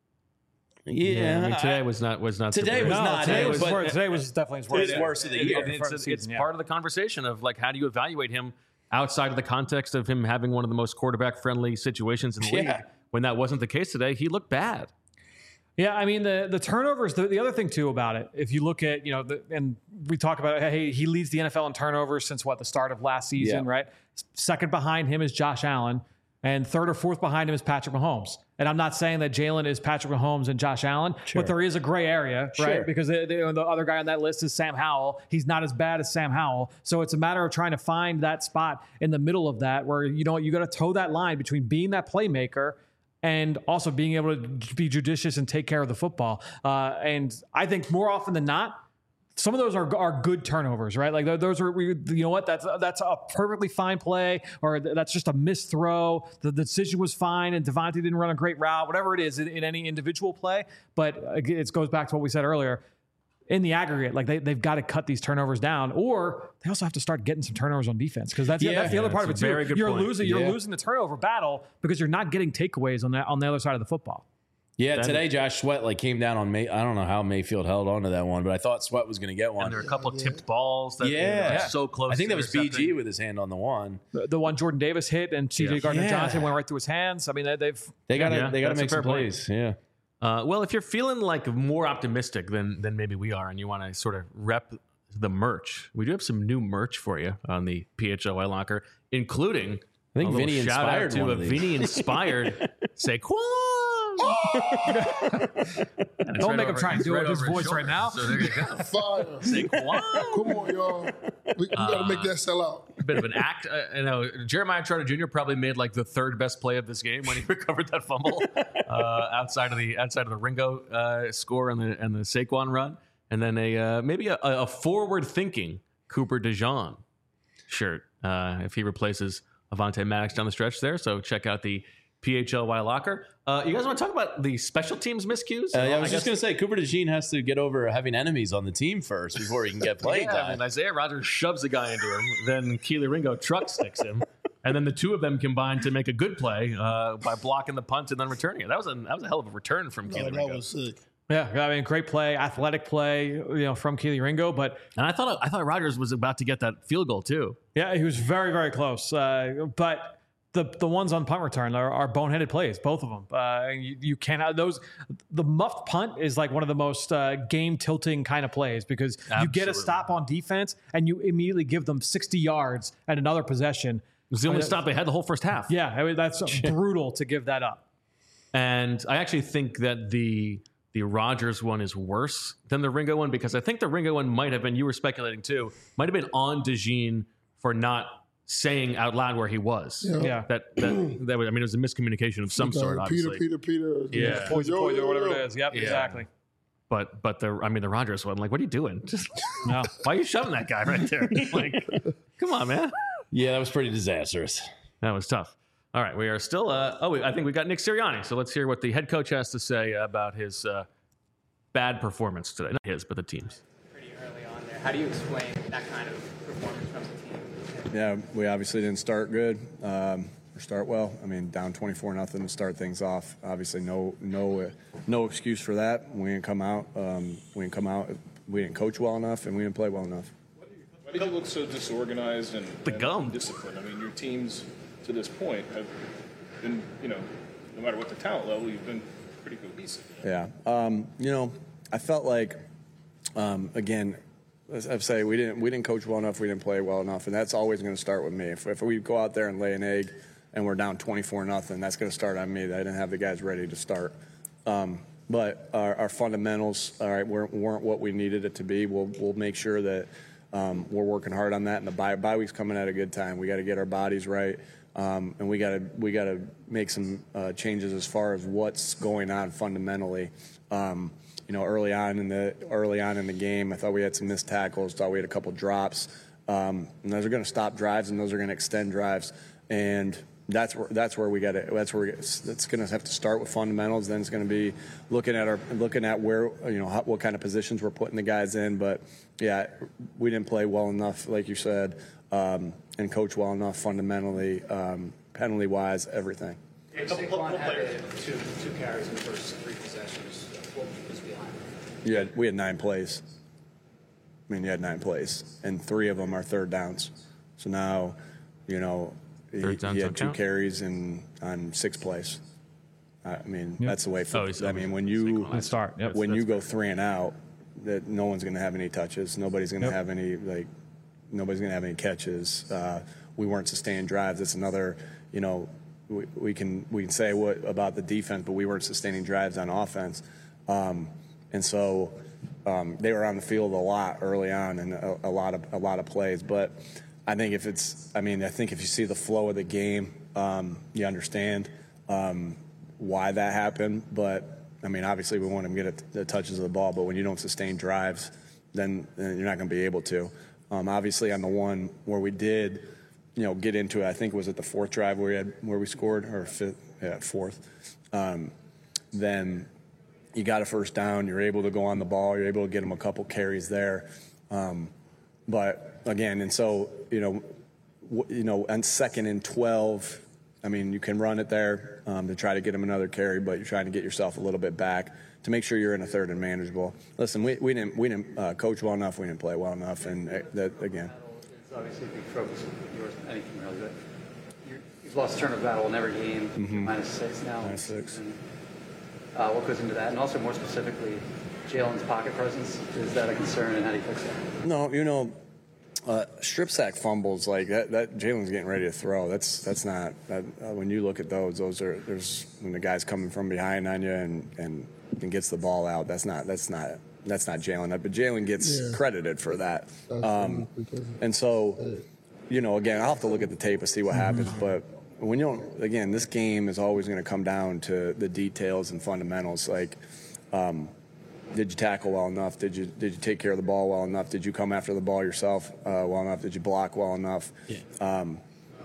Yeah, yeah, I mean, today was not was not today was no, not today it, was but worse. Today was definitely his worst, his worst of the it, year. It, it's it's season, yeah. part of the conversation of like how do you evaluate him outside of the context of him having one of the most quarterback friendly situations in the Yeah. league. When that wasn't the case today, he looked bad. Yeah, I mean the the turnovers. The, the other thing too about it, if you look at you know, the, and we talk about hey, he leads the N F L in turnovers since what the start of last season, Yeah. right? Second behind him is Josh Allen, and third or fourth behind him is Patrick Mahomes. And I'm not saying that Jalen is Patrick Mahomes and Josh Allen, Sure. but there is a gray area, right? Sure. Because the, the, the other guy on that list is Sam Howell. He's not as bad as Sam Howell, so it's a matter of trying to find that spot in the middle of that where you know you got to toe that line between being that playmaker and also being able to be judicious and take care of the football. Uh, and I think more often than not, some of those are are good turnovers, right? Like those are, you know what? That's that's a perfectly fine play, or that's just a missed throw. The, the decision was fine, and Devontae didn't run a great route. Whatever it is in, in any individual play, but it goes back to what we said earlier. In the aggregate, like they they've got to cut these turnovers down, or they also have to start getting some turnovers on defense because that's Yeah, that's the other yeah, part of it that's a too. very good You're point. losing you're Yeah. losing the turnover battle because you're not getting takeaways on that on the other side of the football. Yeah, today Josh Sweat like came down on May. I don't know how Mayfield held on to that one, but I thought Sweat was going to get one. And there were a couple of tipped balls that Yeah. were Yeah. so close. I think to that was B G intercepting. with his hand on the one. The, the one Jordan Davis hit and C J Yeah. Gardner Johnson Yeah. went right through his hands. I mean, they, they've They got to Yeah, they got to that's a make some fair point. plays. Yeah. Uh, well, if you're feeling like more optimistic than than maybe we are, and you want to sort of rep the merch, we do have some new merch for you on the P H L Y Locker, including I think a little Vinny shout inspired out to one a of these. Vinny inspired Saquon. And it's Don't right make him over- try and it's do it with his over voice shoulder. right now. So there you go. Fire. Saquon. Come on, y'all. We, we got to make that sell out. A bit of an act. Uh, you know, Jeremiah Trotter Junior probably made like the third best play of this game when he recovered that fumble uh, outside of the outside of the Ringo uh, score and the and the Saquon run, and then a uh, maybe a, a forward-thinking Cooper DeJean shirt uh, if he replaces Avonte Maddox down the stretch there. So check out the P H L Y Locker. Uh, you guys want to talk about the special teams miscues? Uh, yeah, I Well, was just guess- going to say Cooper DeJean has to get over having enemies on the team first before he can get playing Yeah, time. and Isaiah Rodgers shoves a guy into him. Then Keely Ringo truck sticks him. And then the two of them combine to make a good play uh, by blocking the punt and then returning it. That was a that was a hell of a return from Keely Oh, that Ringo. was sick. Yeah, I mean, great play, athletic play, you know, from Keely Ringo. But And I thought I thought Rodgers was about to get that field goal too. yeah, he was very, very close. Uh, but the the ones on punt return are, are boneheaded plays, both of them. Uh, you, you cannot those. The muffed punt is like one of the most uh, game tilting kind of plays because you get a Absolutely. stop on defense and you immediately give them sixty yards at another possession. It was the only Uh, stop they had the whole first half. Yeah, I mean, that's brutal to give that up. And I actually think that the the Rodgers one is worse than the Ringo one because I think the Ringo one might have been, you were speculating too, might have been on DeJean for not saying out loud where he was. Yeah. Yeah. That that, that was, I mean, it was a miscommunication of some Uh, sort, Peter, obviously. Peter, Peter. Yeah. Poison, Yo, poison, yo, or whatever yo. it is. Yep, Yeah. exactly. But but the I mean the Rodgers one, like, what are you doing? Just No. why are you shoving that guy right there? Like, come on, man. Yeah, that was pretty disastrous. That was tough. All right, we are still. Uh, oh, I think we got Nick Sirianni. So let's hear what the head coach has to say about his uh, bad performance today. Not his, but the team's. Pretty early on there. How do you explain that kind of performance from the team? Yeah, we obviously didn't start good um, or start well. I mean, down twenty-four nothing to start things off. Obviously, no no uh, no excuse for that. We didn't come out. Um, we didn't come out. We didn't coach well enough, and we didn't play well enough. Why do you look so disorganized and, The and gum. undisciplined? I mean, your teams to this point have been, you know, no matter what the talent level, you've been pretty cohesive. Yeah, um, you know, I felt like, um, again, as I say, we didn't we didn't coach well enough. We didn't play well enough, and that's always going to start with me. If, if we go out there and lay an egg, and we're down twenty-four nothing, that's going to start on me. I didn't have the guys ready to start. Um, but our, our fundamentals, all right, weren't, weren't what we needed it to be. We'll we'll make sure that Um, we're working hard on that, and the bye, bye week's coming at a good time. We got to get our bodies right, um, and we got to we got to make some uh, changes as far as what's going on fundamentally. Um, you know, early on in the early on in the game, I thought we had some missed tackles. Thought we had a couple drops, um, and those are going to stop drives, and those are going to extend drives, and that's where that's where we got to. That's where we, it's, it's going to have to start with fundamentals. Then it's going to be looking at our looking at where you know how, what kind of positions we're putting the guys in. But yeah, we didn't play well enough, like you said, um, and coach well enough fundamentally, um, penalty wise, everything. Yeah, Saquon had two two carries in the first three possessions. What was behind it? Yeah, we had nine plays. I mean, you had nine plays, and three of them are third downs. So now, you know. He, he had two count? carries in on six plays. I mean, yep. that's the way. For, oh, I mean, when you start, yep. when that's you go good. three and out, that no one's going to have any touches. Nobody's going to yep. have any like. Nobody's going to have any catches. Uh, we weren't sustaining drives. That's another. You know, we, we can we can say what about the defense, but we weren't sustaining drives on offense, um, and so um, they were on the field a lot early on and a, a lot of a lot of plays, but. I think if it's, I mean, I think if you see the flow of the game, um, you understand um, why that happened. But, I mean, obviously we want him to get the touches of the ball, but when you don't sustain drives, then, then you're not going to be able to. Um, obviously on the one where we did, you know, get into it, I think it was at the fourth drive where we, had, where we scored, or fifth, yeah, fourth, um, then you got a first down, you're able to go on the ball, you're able to get him a couple carries there. Um, but, again, and so, you know, w- you know, on second and twelve, I mean, you can run it there um, to try to get him another carry, but you're trying to get yourself a little bit back to make sure you're in a third and manageable. Listen, we, we didn't we didn't uh, coach well enough, we didn't play well enough, and uh, that again. It's obviously a big focus of yours, anything really, but you're, you've lost turnover battle in every game, mm-hmm. minus six now. Minus six. And, uh, what goes into that, and also more specifically, Jalen's pocket presence, is that a concern, and how do you fix that? No, you know. Uh, strip sack fumbles like that. that Jalen's getting ready to throw. That's that's not. That, uh, when you look at those, those are there's when the guy's coming from behind on you and, and, and gets the ball out. That's not. That's not. That's not Jalen. But Jalen gets yeah. credited for that. Um, and so, you know, again, I'll have to look at the tape and see what happens. But when you don't, again, this game is always going to come down to the details and fundamentals. Like. Um, Did you tackle well enough? Did you did you take care of the ball well enough? Did you come after the ball yourself uh, well enough? Did you block well enough? Yeah. Um,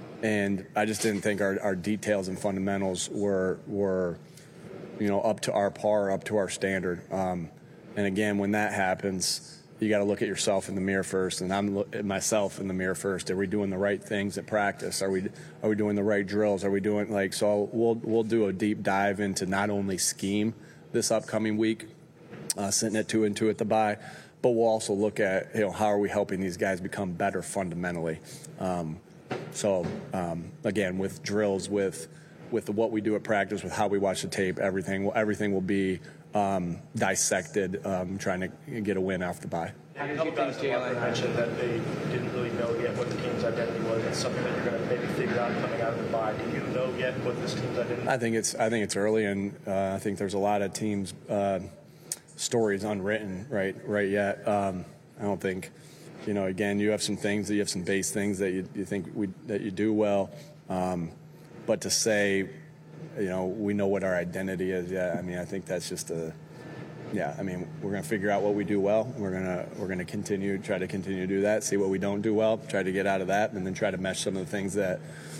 and I just didn't think our, our details and fundamentals were were you know up to our par, up to our standard. Um, and again, when that happens, you got to look at yourself in the mirror first, and I'm look at myself in the mirror first. Are we doing the right things at practice? Are we are we doing the right drills? Are we doing like so? We'll we'll do a deep dive into not only scheme this upcoming week. Uh, sitting at two and two at the bye, but we'll also look at you know how are we helping these guys become better fundamentally. Um, so um, again, with drills, with with the, what we do at practice, with how we watch the tape, everything will everything will be um, dissected, um, trying to get a win off the bye. How did you think Jalen mentioned that they didn't really know yet what the team's identity was? It's something that you're going to maybe figure out coming out of the bye. Do you know yet what this team's identity is? I think it's I think it's early, and uh, I think there's a lot of teams. Uh, stories unwritten right right yet. Um, I don't think, you know, again, you have some things that you have some base things that you, you think we, that you do well. Um, but to say, you know, we know what our identity is. Yeah. I mean, I think that's just a, yeah, I mean, we're going to figure out what we do well. We're going to, we're going to continue, try to continue to do that, see what we don't do well, try to get out of that, and then try to mesh some of the things that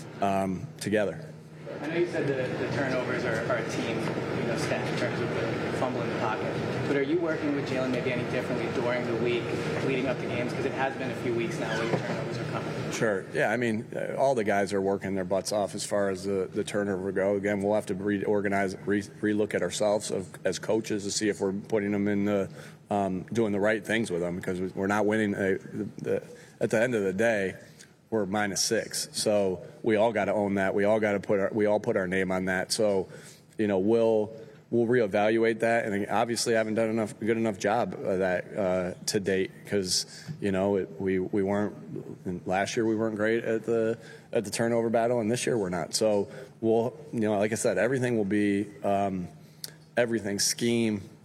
um, together. I know you said that the turnovers are, are a team, you know, stat in terms of the fumble in the pocket. But are you working with Jalen maybe any differently during the week leading up to games? Because it has been a few weeks now where the turnovers are coming. Sure. Yeah, I mean, uh, all the guys are working their butts off as far as the, the turnover go. Again, we'll have to reorganize, re- re-look at ourselves of, as coaches to see if we're putting them in the, um, doing the right things with them because we're not winning. Uh, the, the, at the end of the day, we're minus six. So we all got to own that. We all got to put our, we all put our name on that. So, you know, we'll, We'll reevaluate that, and obviously I haven't done enough good enough job of that uh, to date because you know it, we we weren't last year we weren't great at the at the turnover battle, and this year we're not. So we'll you know like I said, everything will be um, everything scheme,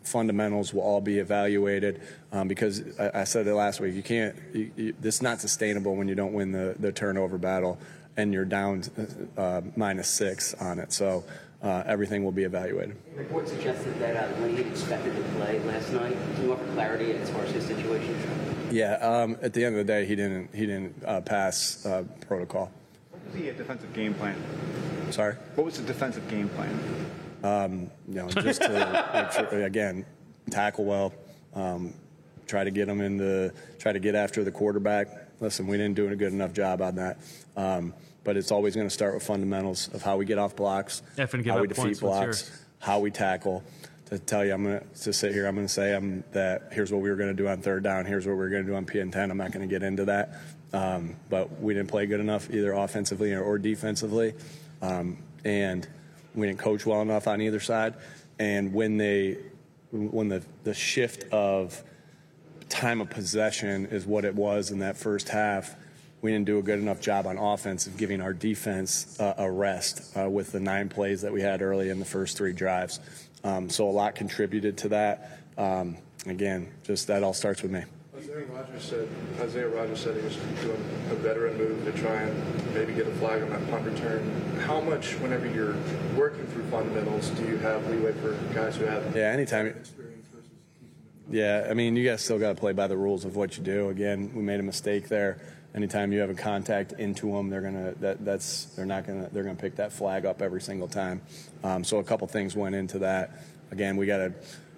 fundamentals will all be evaluated um, because I, I said it last week. You can't. You, you, this is not sustainable when you don't win the the turnover battle and you're down uh, minus six on it. So uh, everything will be evaluated. The report suggested that uh, Lane expected to play last night. Can you offer clarity as far as his situation? Yeah. Um, at the end of the day, he didn't. He didn't uh, pass uh, protocol. What was the defensive game plan? Sorry. What was the defensive game plan? Um, you know, just to make sure, again, tackle well, um, try to get them in the, try to get after the quarterback. Listen, we didn't do a good enough job on that. Um, but it's always going to start with fundamentals of how we get off blocks, F and give how up we defeat points. What's blocks, yours? how we tackle. To tell you, I'm going to sit here, I'm going to say I'm, that here's what we were going to do on third down, here's what we we're going to do on P and ten. I'm not going to get into that. Um, but we didn't play good enough either offensively or, or defensively. Um, and we didn't coach well enough on either side. And when they, when the, the shift of time of possession is what it was in that first half, we didn't do a good enough job on offense of giving our defense uh, a rest uh, with the nine plays that we had early in the first three drives. Um, so a lot contributed to that. Um, again, just that all starts with me. Isaiah Rodgers said Isaiah Rodgers said he was doing a veteran move to try and maybe get a flag on that punt return. How much, whenever you're working through fundamentals, do you have leeway for guys who have yeah, anytime. experience versus? Yeah, I mean, you guys still got to play by the rules of what you do. Again, we made a mistake there. Anytime you have a contact into them, they're gonna that that's they're not gonna they're gonna pick that flag up every single time. Um, so a couple things went into that. Again, we got to.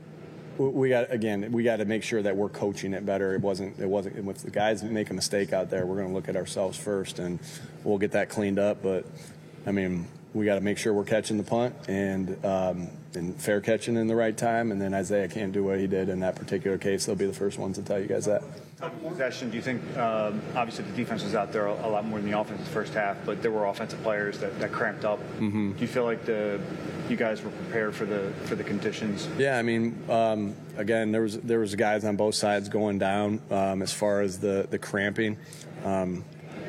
We got again. We got to make sure that we're coaching it better. It wasn't. It wasn't. If the guys make a mistake out there, we're going to look at ourselves first, and we'll get that cleaned up. But I mean, we got to make sure we're catching the punt and um, and fair catching in the right time. And then Isaiah can't do what he did in that particular case. They'll be the first ones to tell you guys that. Possession. Do you think? Um, obviously, the defense was out there a lot more than the offense in the first half, but there were offensive players that, that cramped up. Mm-hmm. Do you feel like the you guys were prepared for the for the conditions? Yeah, I mean, um, again, there was there was guys on both sides going down um, as far as the the cramping, um,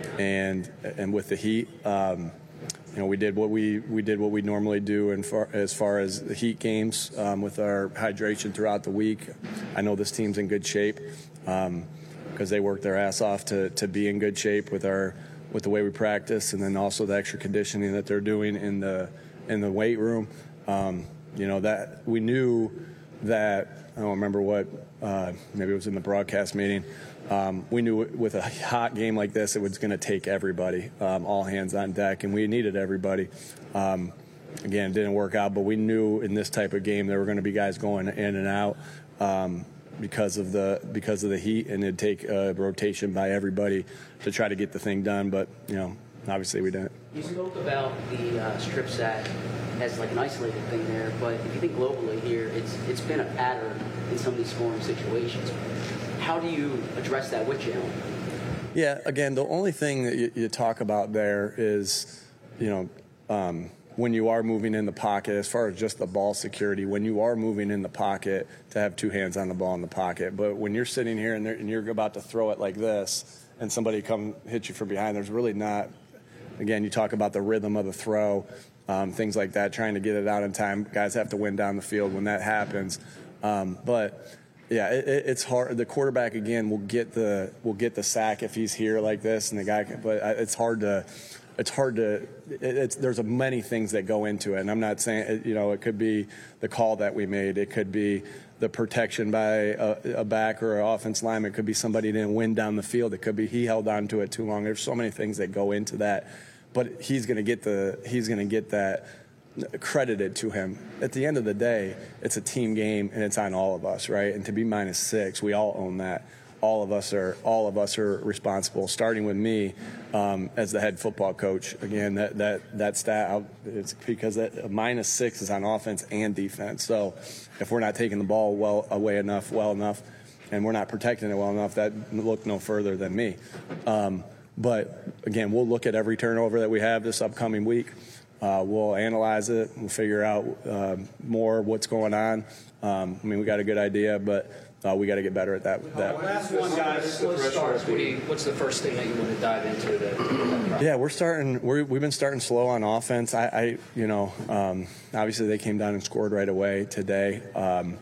and and with the heat. Um, You know, we did what we we did what we normally do in far, as far as the heat games um, with our hydration throughout the week. I know this team's in good shape because um, they worked their ass off to to be in good shape with our with the way we practice, and then also the extra conditioning that they're doing in the in the weight room. Um, you know that we knew that I don't remember what uh, maybe it was in the broadcast meeting. Um, we knew with a hot game like this, it was going to take everybody, um, all hands on deck, and we needed everybody. Um, again, it didn't work out, but we knew in this type of game there were going to be guys going in and out um, because of the because of the heat, and it'd take a rotation by everybody to try to get the thing done. But you know, obviously we didn't. You spoke about the uh, strip sack as like an isolated thing there, but if you think globally here, it's it's been a pattern in some of these scoring situations. How do you address that with Jalen? Yeah, again, the only thing that you, you talk about there is, you know, um, when you are moving in the pocket, as far as just the ball security, when you are moving in the pocket, to have two hands on the ball in the pocket. But when you're sitting here and, and you're about to throw it like this, and somebody come hit you from behind, there's really not. Again, you talk about the rhythm of the throw, um, things like that, trying to get it out in time. Guys have to win down the field when that happens. Um, but yeah, it, it's hard. The quarterback again will get the will get the sack if he's here like this, and the guy. Can, but it's hard to, it's hard to. It, it's there's a many things that go into it, and I'm not saying you know it could be the call that we made. It could be the protection by a, a back or an offense lineman. It could be somebody didn't win down the field. It could be he held on to it too long. There's so many things that go into that, but he's going to get the he's going to get that credited to him. At the end of the day, it's a team game and it's on all of us, right? And to be minus six, we all own that. All of us are all of us are responsible, starting with me um, as the head football coach. Again, that that that stat it's because that minus six is on offense and defense. So if we're not taking the ball well away enough, well enough, and we're not protecting it well enough, that look no further than me. Um, but again, we'll look at every turnover that we have this upcoming week. Uh, we'll analyze it. We'll figure out uh, more what's going on. Um, I mean, we got a good idea, but uh, we got to get better at that. that. Last one, guys. Slow starts. What do you, what's the first thing that you want to dive into? To, yeah, we're starting. We're, we've been starting slow on offense. I, I you know, um, obviously they came down and scored right away today. Um,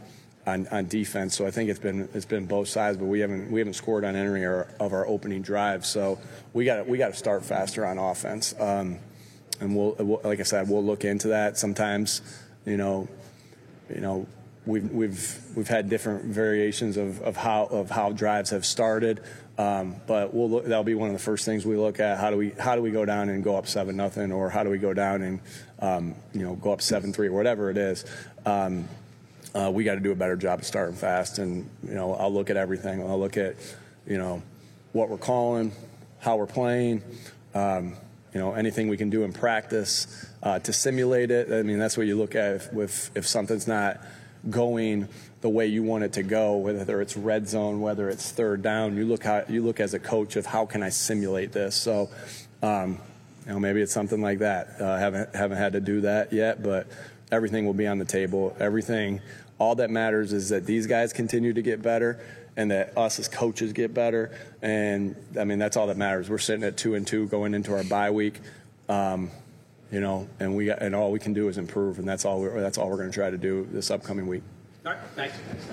on, on defense. So I think it's been it's been both sides, but we haven't we haven't scored on any our, of our opening drives. So we got we got to start faster on offense. Um, and we'll, we'll like I said, we'll look into that. Sometimes, you know, you know. We've we've we've had different variations of, of how of how drives have started, um, but we'll look, that'll be one of the first things we look at. How do we how do we go down and go up seven nothing, or how do we go down and um, you know go up seven three or whatever it is. Um, uh, we got to do a better job of starting fast, and you know I'll look at everything. I'll look at you know what we're calling, how we're playing. Um, You know, anything we can do in practice uh, to simulate it. I mean, that's what you look at if, if if something's not going the way you want it to go, whether it's red zone, whether it's third down. You look how you look as a coach of how can I simulate this. So, um, you know, maybe it's something like that. Uh, haven't haven't had to do that yet, but everything will be on the table. Everything, all that matters is that these guys continue to get better, and that us as coaches get better. And I mean, that's all that matters. We're sitting at two and two going into our bye week, um, you know, and we got, and all we can do is improve, and that's all. We're, that's all we're going to try to do this upcoming week. All right, thanks.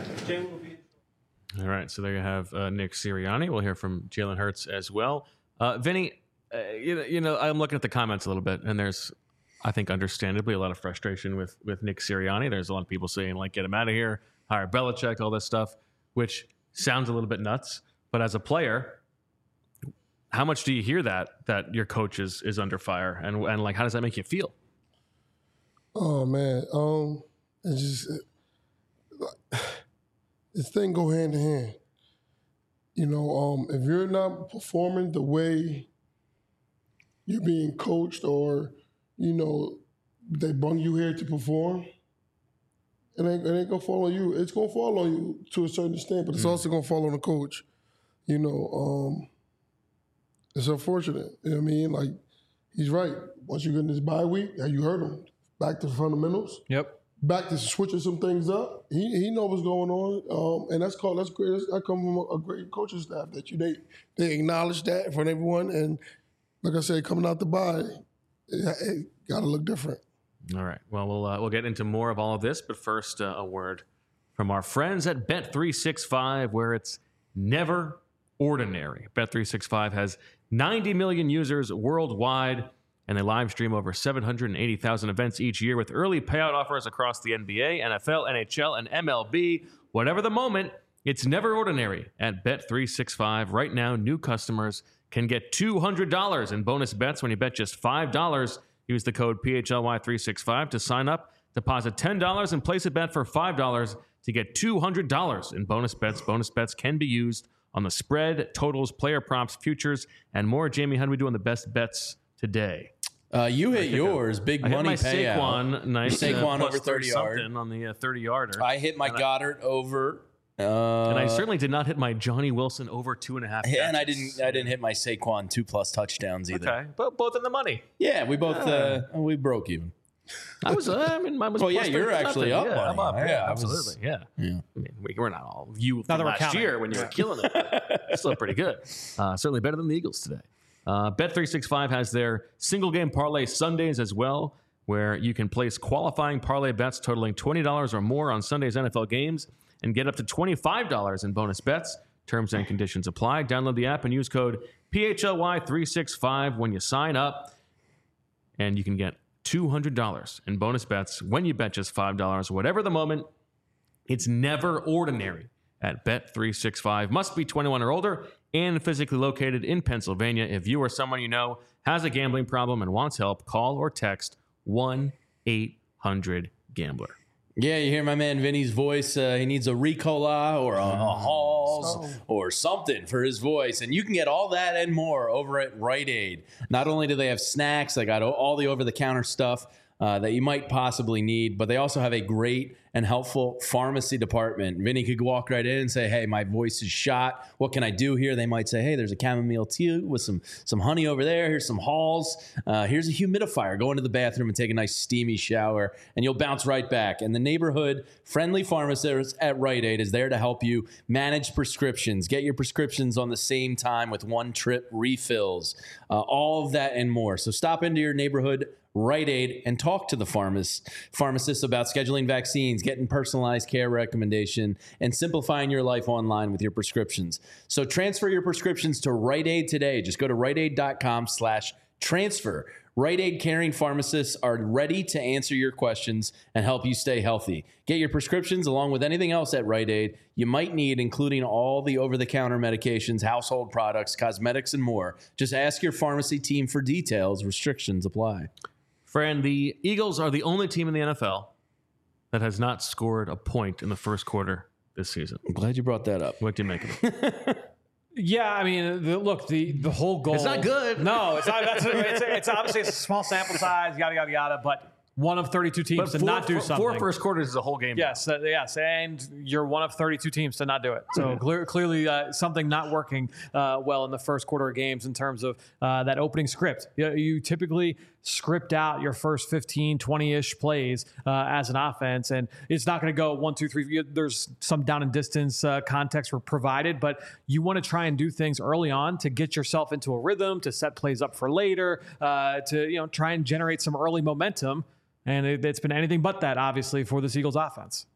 All right, so there you have uh, Nick Sirianni. We'll hear from Jalen Hurts as well. Uh, Vinny, uh, you, you know, I'm looking at the comments a little bit, and there's, I think, understandably, a lot of frustration with with Nick Sirianni. There's a lot of people saying, like, get him out of here, hire Belichick, all this stuff, which sounds a little bit nuts. But as a player, how much do you hear that that your coach is is under fire, and and like how does that make you feel? Oh man, um, it's just it, this thing go hand in hand. You know, um, if you're not performing the way you're being coached, or you know they bring you here to perform, it ain't, it ain't gonna fall on you. It's gonna fall on you to a certain extent, but it's mm. also gonna fall on the coach. You know, um, it's unfortunate. You know what I mean? Like, he's right. Once you get in this bye week, you heard him. Back to fundamentals. Yep. Back to switching some things up. He he knows what's going on, um, and that's called that's great. That's, that comes from a, a great coaching staff that you they they acknowledge that in front of everyone. And like I said, coming out the bye, it, it got to look different. All right. Well, we'll uh, we'll get into more of all of this, but first, uh, a word from our friends at Bet three sixty-five, where it's never ordinary. Bet three sixty-five has ninety million users worldwide, and they live stream over seven hundred eighty thousand events each year with early payout offers across the N B A, N F L, N H L, and M L B. Whatever the moment, it's never ordinary at Bet three sixty-five. Right now, new customers can get two hundred dollars in bonus bets when you bet just five dollars. Use the code P H L Y three sixty-five to sign up. Deposit ten dollars and place a bet for five dollars to get two hundred dollars in bonus bets. Bonus bets can be used on the spread, totals, player props, futures, and more. Jamie, how do we do on the best bets today? Uh, you hit yours, big I money hit my payout. Saquon, nice Saquon uh, over thirty yard on the uh, thirty yarder. I hit my and Goddard I, over, uh, and I certainly did not hit my Johnny Wilson over two and a half. Catches. And I didn't, I didn't hit my Saquon two plus touchdowns either. Okay, but both in the money. Yeah, we both uh, we broke even. I was, uh, I mean, mine was. Well, yeah, plus you're actually up. Yeah, I'm up. Yeah, Yeah, I was- absolutely. Yeah. Yeah. I mean, we, we're not all you Now from that we're last counting. year when you were killing it. Still pretty good. Uh, certainly better than the Eagles today. Uh, Bet three sixty-five has their single game parlay Sundays as well, where you can place qualifying parlay bets totaling twenty dollars or more on Sunday's N F L games and get up to twenty-five dollars in bonus bets. Terms and conditions apply. Download the app and use code P H L Y three sixty-five when you sign up, and you can get two hundred dollars in bonus bets when you bet just five dollars. Whatever the moment, it's never ordinary at Bet three sixty-five. Must be twenty-one or older and physically located in Pennsylvania. If you or someone you know has a gambling problem and wants help, call or text one eight hundred gambler. Yeah, you hear my man Vinny's voice. Uh, he needs a Ricola or a, a Halls Oh. or something for his voice. And you can get all that and more over at Rite Aid. Not only do they have snacks, they got all the over-the-counter stuff uh, that you might possibly need, but they also have a great and helpful pharmacy department. Vinny could walk right in and say, hey, my voice is shot. What can I do here? They might say, hey, there's a chamomile tea with some some honey over there. Here's some Halls. Uh, here's a humidifier. Go into the bathroom and take a nice steamy shower, and you'll bounce right back. And the neighborhood-friendly pharmacist at Rite Aid is there to help you manage prescriptions, get your prescriptions on the same time with one-trip refills, uh, all of that and more. So stop into your neighborhood Rite Aid and talk to the pharmacist, pharmacist about scheduling vaccines, getting personalized care recommendation, and simplifying your life online with your prescriptions. So transfer your prescriptions to Rite Aid today. Just go to riteaid.com slash transfer. Rite Aid caring pharmacists are ready to answer your questions and help you stay healthy. Get your prescriptions along with anything else at Rite Aid you might need, including all the over-the-counter medications, household products, cosmetics, and more. Just ask your pharmacy team for details. Restrictions apply. Fran, the Eagles are the only team in the N F L that has not scored a point in the first quarter this season. I'm glad you brought that up. What do you make of it? Yeah, I mean, the, look, the the whole goal. It's not good. No, it's not. That's, it's, it's obviously it's a small sample size, yada yada yada. But one of thirty-two teams But to not do four, something. Four first quarters is a whole game. Yes, uh, yes, and you're one of thirty-two teams to not do it. So clear, clearly, uh, something not working uh, well in the first quarter of games in terms of uh, that opening script. You, you typically script out your first fifteen, twenty-ish plays uh, as an offense, and it's not going to go one, two, three. There's some down and distance uh, context were provided, but you want to try and do things early on to get yourself into a rhythm, to set plays up for later, uh, to you know try and generate some early momentum. And it, it's been anything but that, obviously, for this Eagles offense.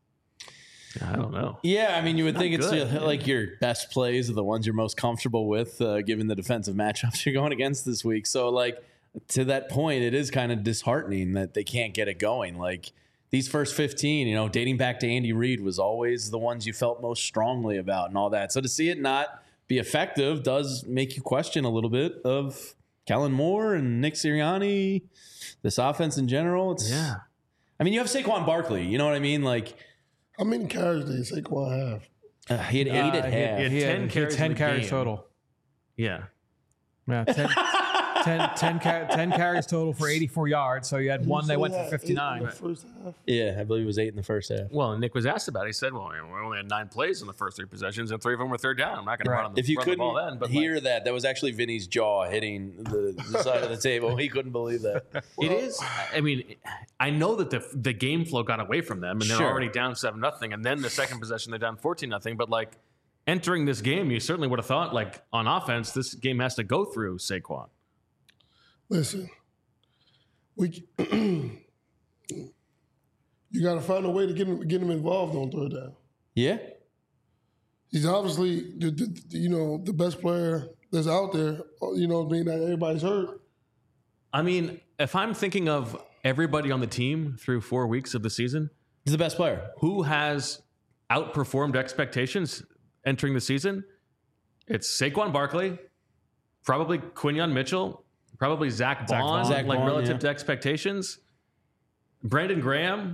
I don't know. Yeah, I mean, you would Not think it's good, uh, like your best plays are the ones you're most comfortable with, uh, given the defensive matchups you're going against this week. So, like, to that point, it is kind of disheartening that they can't get it going. Like, these first fifteen, you know, dating back to Andy Reid was always the ones you felt most strongly about and all that. So to see it not be effective does make you question a little bit of Kellen Moore and Nick Sirianni, this offense in general. It's, yeah. I mean, you have Saquon Barkley. You know what I mean? Like, how many carries did Saquon have? Uh, he had eight Uh, at he half. had- he had ten carries ten in the carries game. total. Yeah. Yeah, ten, ten, ten, ca- ten carries total for eighty-four yards. So you had one they went for fifty-nine. Yeah, I believe it was eight in the first half. Well, and Nick was asked about it. He said, well, we only had nine plays in the first three possessions, and three of them were third down. I'm not going to run on the, If you run the couldn't ball then. But hear that, that was actually Vinny's jaw hitting the, the side of the table. He couldn't believe that. It is. I mean, I know that the the game flow got away from them, and they're Sure. already down seven nothing. And then the second possession, they're down fourteen nothing. But like entering this game, you certainly would have thought, like on offense, this game has to go through Saquon. Listen, we you got to find a way to get him get him involved on third down. Yeah, he's obviously the, the you know the best player that's out there. You know, being that everybody's hurt. I mean, if I'm thinking of everybody on the team through four weeks of the season, he's the best player. Who has outperformed expectations entering the season? It's Saquon Barkley, probably Quinyon Mitchell, probably Zach Bond, Zach like Bond, relative yeah. to expectations. Brandon Graham.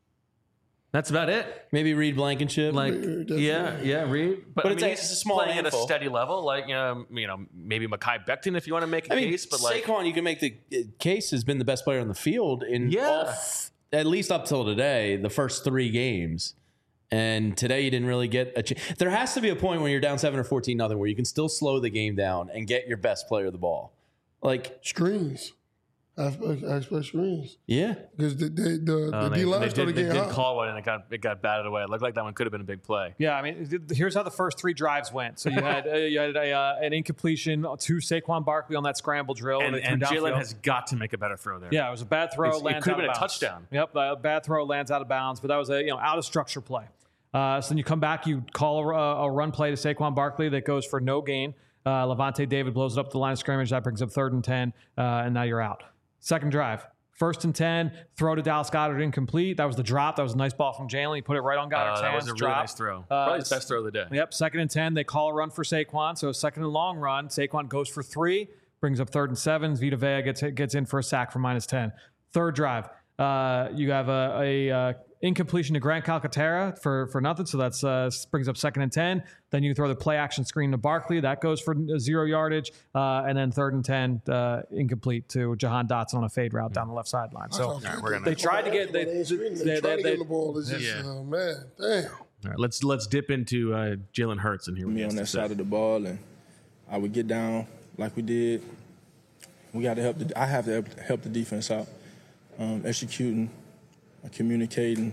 That's about it. Maybe Reed Blankenship. Like, yeah, yeah, Reed. But, But I it's mean, a- he's it's a small playing handful. at a steady level. Like, you know, you know, maybe Mekhi Becton if you want to make a I mean, case. But like, Saquon, you can make the uh, case has been the best player on the field in Yeah. all f- at least up till today, the first three games. And today you didn't really get a chance. There has to be a point when you're down seven or fourteen nothing where you can still slow the game down and get your best player the ball. Like screens. I expect, I expect screens. Yeah. Because the, the, the, uh, the they, D-line they started did, they getting did hot. call one and it got it got batted away. It looked like that one could have been a big play. Yeah, I mean, th- here's how the first three drives went. So you had uh, you had a, uh, an incompletion to Saquon Barkley on that scramble drill, And, they threw and Jalen downfield. has got to make a better throw there. Yeah, it was a bad throw. It's- it lands could have out been of a bounds. touchdown. Yep, a bad throw lands out of bounds, but that was a you know out of structure play. Uh, so then you come back, you call a, a run play to Saquon Barkley that goes for no gain. Uh, Levante David blows it up the line of scrimmage. That brings up third and ten, uh, and now you're out. Second drive. First and ten, throw to Dallas Goedert, incomplete. That was the drop. That was a nice ball from Jalen. He put it right on Goddard's Uh, that hands. was a really drop. nice throw. Uh, Probably his best throw of the day. Yep, second and ten. They call a run for Saquon. So second and long run. Saquon goes for three, brings up third and seven. Vita Vea gets gets in for a sack for minus ten. Third drive. Uh, you have a, a uh, incompletion to Grant Calcaterra for, for nothing. So that's uh, brings up second and ten. Then you throw the play action screen to Barkley. That goes for zero yardage. Uh, and then third and ten, uh, inccomplete to Jahan Dotson on a fade route down the left sideline. So All right, we're gonna- they tried to get they, They, they, they, they, trying to they- get the ball. It's just, Yeah. uh, man, damn. All right, let's let's dip into uh, Jalen Hurts and hear what me he has on to that say. side of the ball, and I would get down like we did. We got to help. The, I have to help, help the defense out, um, executing, uh, communicating.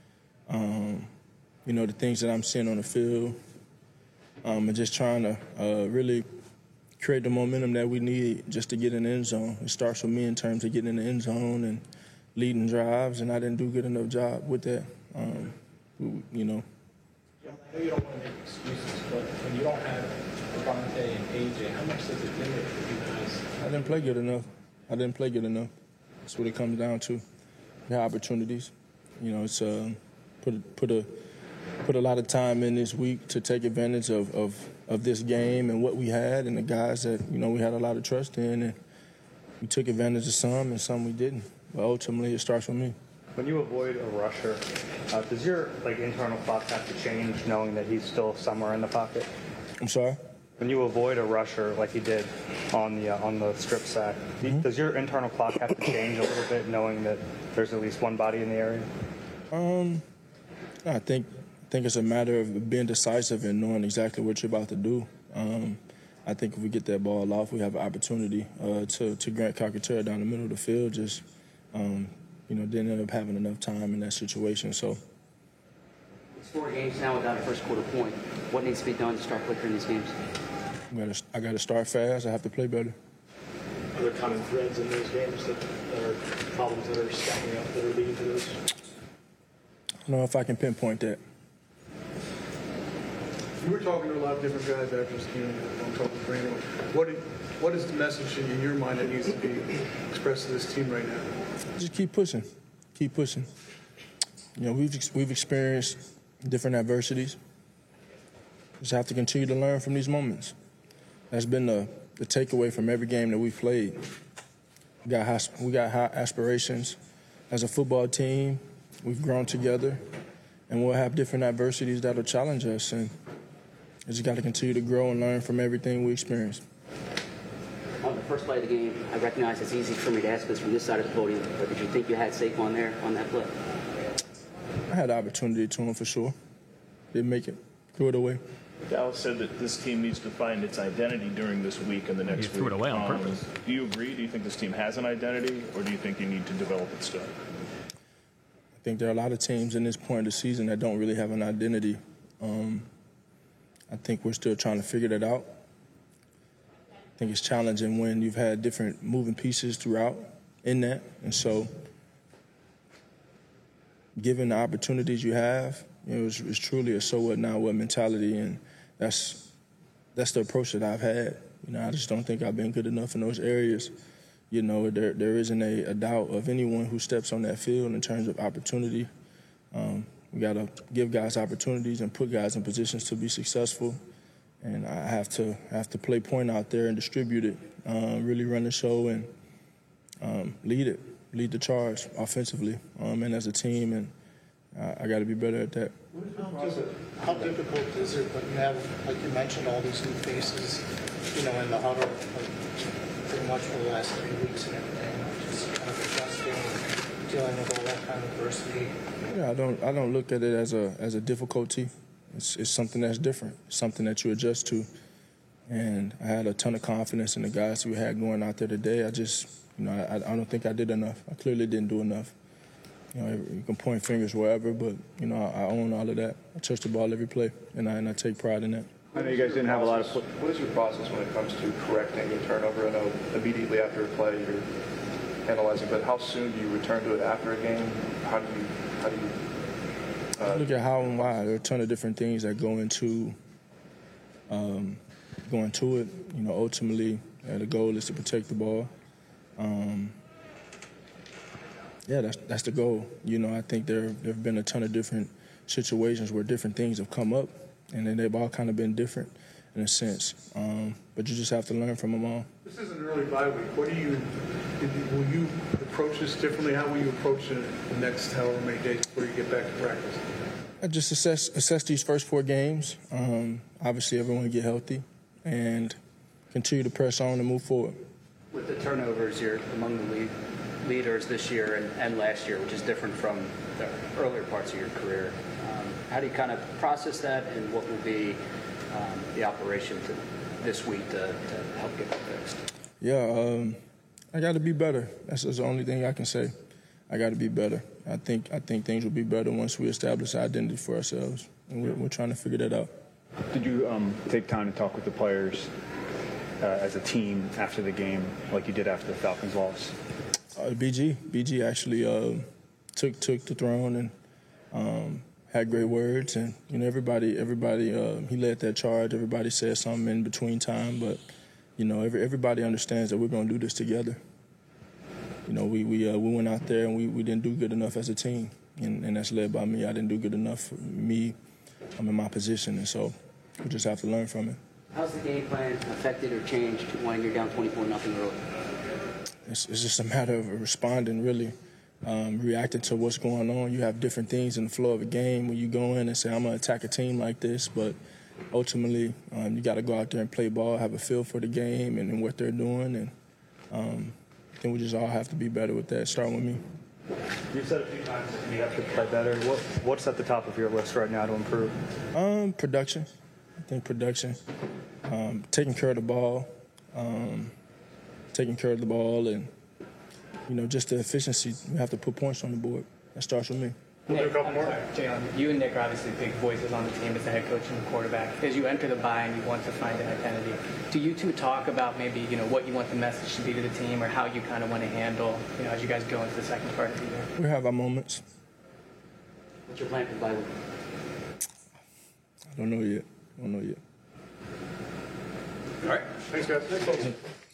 Um, you know, the things that I'm seeing on the field, um, and just trying to uh, really create the momentum that we need just to get in the end zone. It starts with me in terms of getting in the end zone and leading drives, and I didn't do a good enough job with that. Um, you know. I know you don't want to make excuses, but when you don't have Devontae and A J, how much does it limit for you guys? I didn't play good enough. I didn't play good enough. That's what it comes down to. We have opportunities. You know, it's uh, put put a put a lot of time in this week to take advantage of, of of this game and what we had and the guys that you know we had a lot of trust in, and we took advantage of some and some we didn't. But ultimately, it starts with me. When you avoid a rusher, uh, does your like internal clock have to change, knowing that he's still somewhere in the pocket? I'm sorry. When you avoid a rusher like you did on the uh, on the strip sack, mm-hmm. does your internal clock have to change a little bit, knowing that there's at least one body in the area? Um, I think I think it's a matter of being decisive and knowing exactly what you're about to do. Um, I think if we get that ball off, we have an opportunity uh, to to Grant Calcaterra down the middle of the field. Just um, you know, didn't end up having enough time in that situation. So. It's four games now without a first quarter point. What needs to be done to start quicker in these games? I gotta, I gotta start fast. I have to play better. Are there common threads in those games that are problems that are stacking up that are leading to those? I don't know if I can pinpoint that. You were talking to a lot of different guys after this game. I'm talking to Brandon. What, did, what is the message in your mind that needs to be expressed to this team right now? Just keep pushing. Keep pushing. You know, we've we've experienced different adversities. Just have to continue to learn from these moments. That's been the, the takeaway from every game that we've played. We got high, we got high aspirations as a football team. We've grown together, and we'll have different adversities that'll challenge us. And we just got to continue to grow and learn from everything we experience. On the first play of the game, I recognize it's easy for me to ask this from this side of the podium, but did you think you had Saquon there on that play? I had the opportunity to him for sure. Didn't make it. Threw it away. Dallas said that this team needs to find its identity during this week and the next you week. threw it away on um, purpose. Do you agree? Do you think this team has an identity, or do you think you need to develop it still? I think there are a lot of teams in this point of the season that don't really have an identity. Um, I think we're still trying to figure that out. I think it's challenging when you've had different moving pieces throughout in that. And so given the opportunities you have, you know, it's, it's truly a so what, now what mentality. And that's that's the approach that I've had. You know, I just don't think I've been good enough in those areas. You know, there there isn't a, a doubt of anyone who steps on that field in terms of opportunity. Um, we got to give guys opportunities and put guys in positions to be successful. And I have to have to play point out there and distribute it, um, really run the show and um, lead it, lead the charge offensively um, and as a team. And I, I got to be better at that. How, how difficult is it when you have, like you mentioned, all these new faces, you know, in the huddle, like, pretty much for the last three weeks and everything, just kind of adjusting and dealing with all that kind of adversity? Yeah, I don't I don't look at it as a as a difficulty. It's, it's something that's different, something that you adjust to. And I had a ton of confidence in the guys we had going out there today. I just, you know, I, I don't think I did enough. I clearly didn't do enough. You know, you can point fingers wherever, but, you know, I, I own all of that. I touch the ball every play, and I, and I take pride in that. I know you guys didn't have a lot of... What is your process when it comes to correcting a turnover? I know immediately after a play you're analyzing, but how soon do you return to it after a game? How do you... How do you Uh, look at how and why. There are a ton of different things that go into um, going to it. You know, ultimately, uh, the goal is to protect the ball. Um, yeah, that's that's the goal. You know, I think there there have been a ton of different situations where different things have come up, and then they've all kind of been different in a sense. Um, but you just have to learn from them all. This is an early bye week. What do you, will you approach this differently? How will you approach it the next however many days before you get back to practice? I just assess assess these first four games. Um, obviously, everyone get healthy and continue to press on and move forward. With the turnovers, you're among the lead leaders this year and, and last year, which is different from the earlier parts of your career. Um, how do you kind of process that, and what will be um, the operation to this week to, to help get that fixed? Yeah, um, I got to be better. That's, that's the only thing I can say. I got to be better. I think I think things will be better once we establish our identity for ourselves, and we're, we're trying to figure that out. Did you um, take time to talk with the players uh, as a team after the game, like you did after the Falcons loss? Uh, B G, B G actually uh, took took the throne and um, had great words, and you know everybody everybody uh, he led that charge. Everybody said something in between time, but you know every, everybody understands that we're going to do this together. You know we we uh, we went out there and we, we didn't do good enough as a team, and, and that's led by me. I didn't do good enough for me. I'm in my position, and so we just have to learn from it. How's the game plan affected or changed when you're down twenty-four nothing early? It's, it's just a matter of responding, really, um, reacting to what's going on. You have different things in the flow of a game when you go in and say, I'm going to attack a team like this, but ultimately um, you got to go out there and play ball, have a feel for the game and, and what they're doing, and um, I think we just all have to be better with that, starting with me. You said a few times that you have to play better. What, what's at the top of your list right now to improve? Um, production. I think production, um, taking care of the ball, um, taking care of the ball, and, you know, just the efficiency. We have to put points on the board. That starts with me. We'll do a couple more. Jalen, you and Nick are obviously big voices on the team as the head coach and the quarterback. As you enter the bye and you want to find an identity, do you two talk about maybe, you know, what you want the message to be to the team or how you kind of want to handle, you know, as you guys go into the second part of the year? We have our moments. What's your plan for the bye week? I don't know yet. I don't know yet. All right. Thanks, guys. Thanks, folks.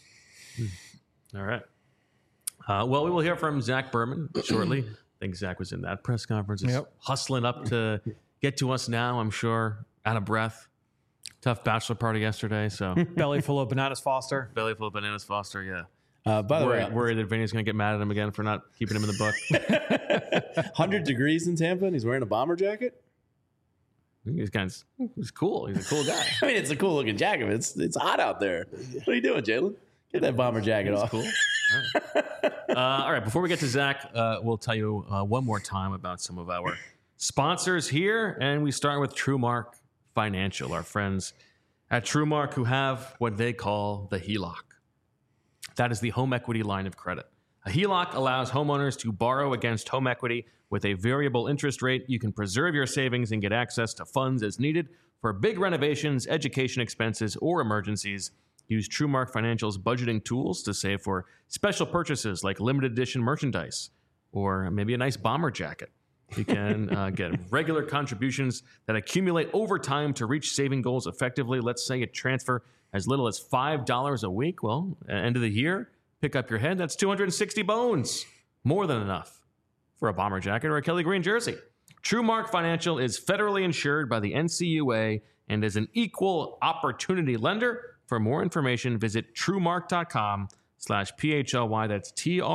All right. Uh, well, we will hear from Zach Berman shortly. I think Zach was in that press conference. He's Yep. hustling up to get to us now, I'm sure, out of breath. Tough bachelor party yesterday, so. Belly full of bananas Foster. Belly full of bananas Foster, yeah. Uh, by the worried, way, worried that Vinny's going to get mad at him again for not keeping him in the book. one hundred degrees in Tampa and he's wearing a bomber jacket? He's kind of, he's cool. He's a cool guy. I mean, it's a cool looking jacket, but it's, it's hot out there. What are you doing, Jalen? Get that bomber jacket He's off. cool. All right. Uh, all right. Before we get to Zach, uh, we'll tell you uh, one more time about some of our sponsors here. And we start with TrueMark Financial, our friends at TrueMark who have what they call the H E L O C. That is the home equity line of credit. A H E L O C allows homeowners to borrow against home equity with a variable interest rate. You can preserve your savings and get access to funds as needed for big renovations, education expenses, or emergencies. Use TrueMark Financial's budgeting tools to save for special purchases like limited edition merchandise or maybe a nice bomber jacket. You can uh, get regular contributions that accumulate over time to reach saving goals effectively. Let's say you transfer as little as five dollars a week. Well, at the end of the year, pick up your head. That's two hundred sixty bones. More than enough for a bomber jacket or a Kelly Green jersey. TrueMark Financial is federally insured by the N C U A and is an equal opportunity lender. For more information, visit truemark.com slash P-H-L-Y. That's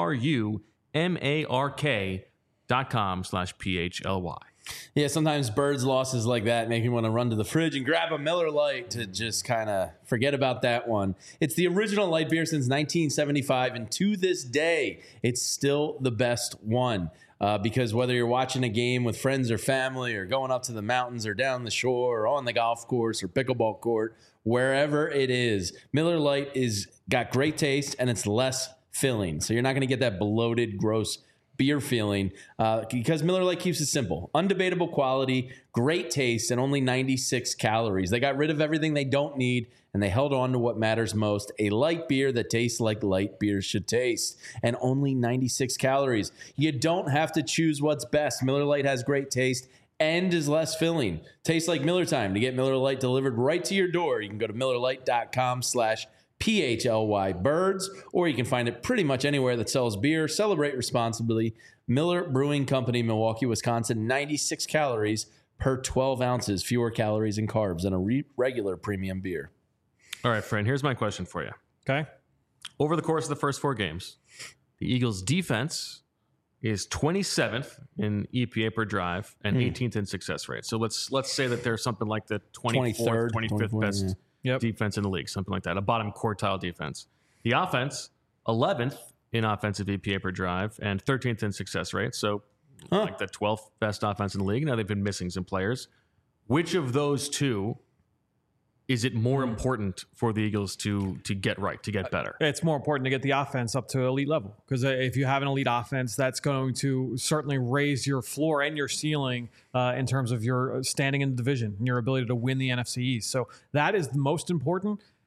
T-R-U-M-A-R-K dot com slash P-H-L-Y. Yeah, sometimes Birds losses like that make me want to run to the fridge and grab a Miller Lite to just kind of forget about that one. It's the original light beer since nineteen seventy-five, and to this day, it's still the best one. Uh, because whether you're watching a game with friends or family or going up to the mountains or down the shore or on the golf course or pickleball court, wherever it is, Miller Lite is got great taste and it's less filling. So you're not going to get that bloated, gross beer feeling uh, because Miller Lite keeps it simple. Undebatable quality, great taste, and only ninety-six calories. They got rid of everything they don't need, and they held on to what matters most, a light beer that tastes like light beers should taste, and only ninety-six calories. You don't have to choose what's best. Miller Lite has great taste and is less filling. Tastes like Miller time. To get Miller Lite delivered right to your door, you can go to millerlite.com slash P H L Y Birds, or you can find it pretty much anywhere that sells beer. Celebrate responsibly. Miller Brewing Company, Milwaukee, Wisconsin, ninety-six calories per twelve ounces, fewer calories and carbs than a re- regular premium beer. All right, friend, here's my question for you. Okay. Over the course of the first four games, the Eagles' defense is twenty-seventh in E P A per drive and Hmm. eighteenth in success rate. So let's let's say that there's something like the twenty-third, twenty-fourth, twenty-fifth twenty-fourth, best Yep. defense in the league, something like that, a bottom quartile defense. The offense, eleventh in offensive E P A per drive and thirteenth in success rate. So like the twelfth best offense in the league. Now they've been missing some players. Which of those two is it more important for the Eagles to to get right, to get better? It's more important to get the offense up to elite level because if you have an elite offense, that's going to certainly raise your floor and your ceiling uh, in terms of your standing in the division and your ability to win the N F C East. So that is the most important.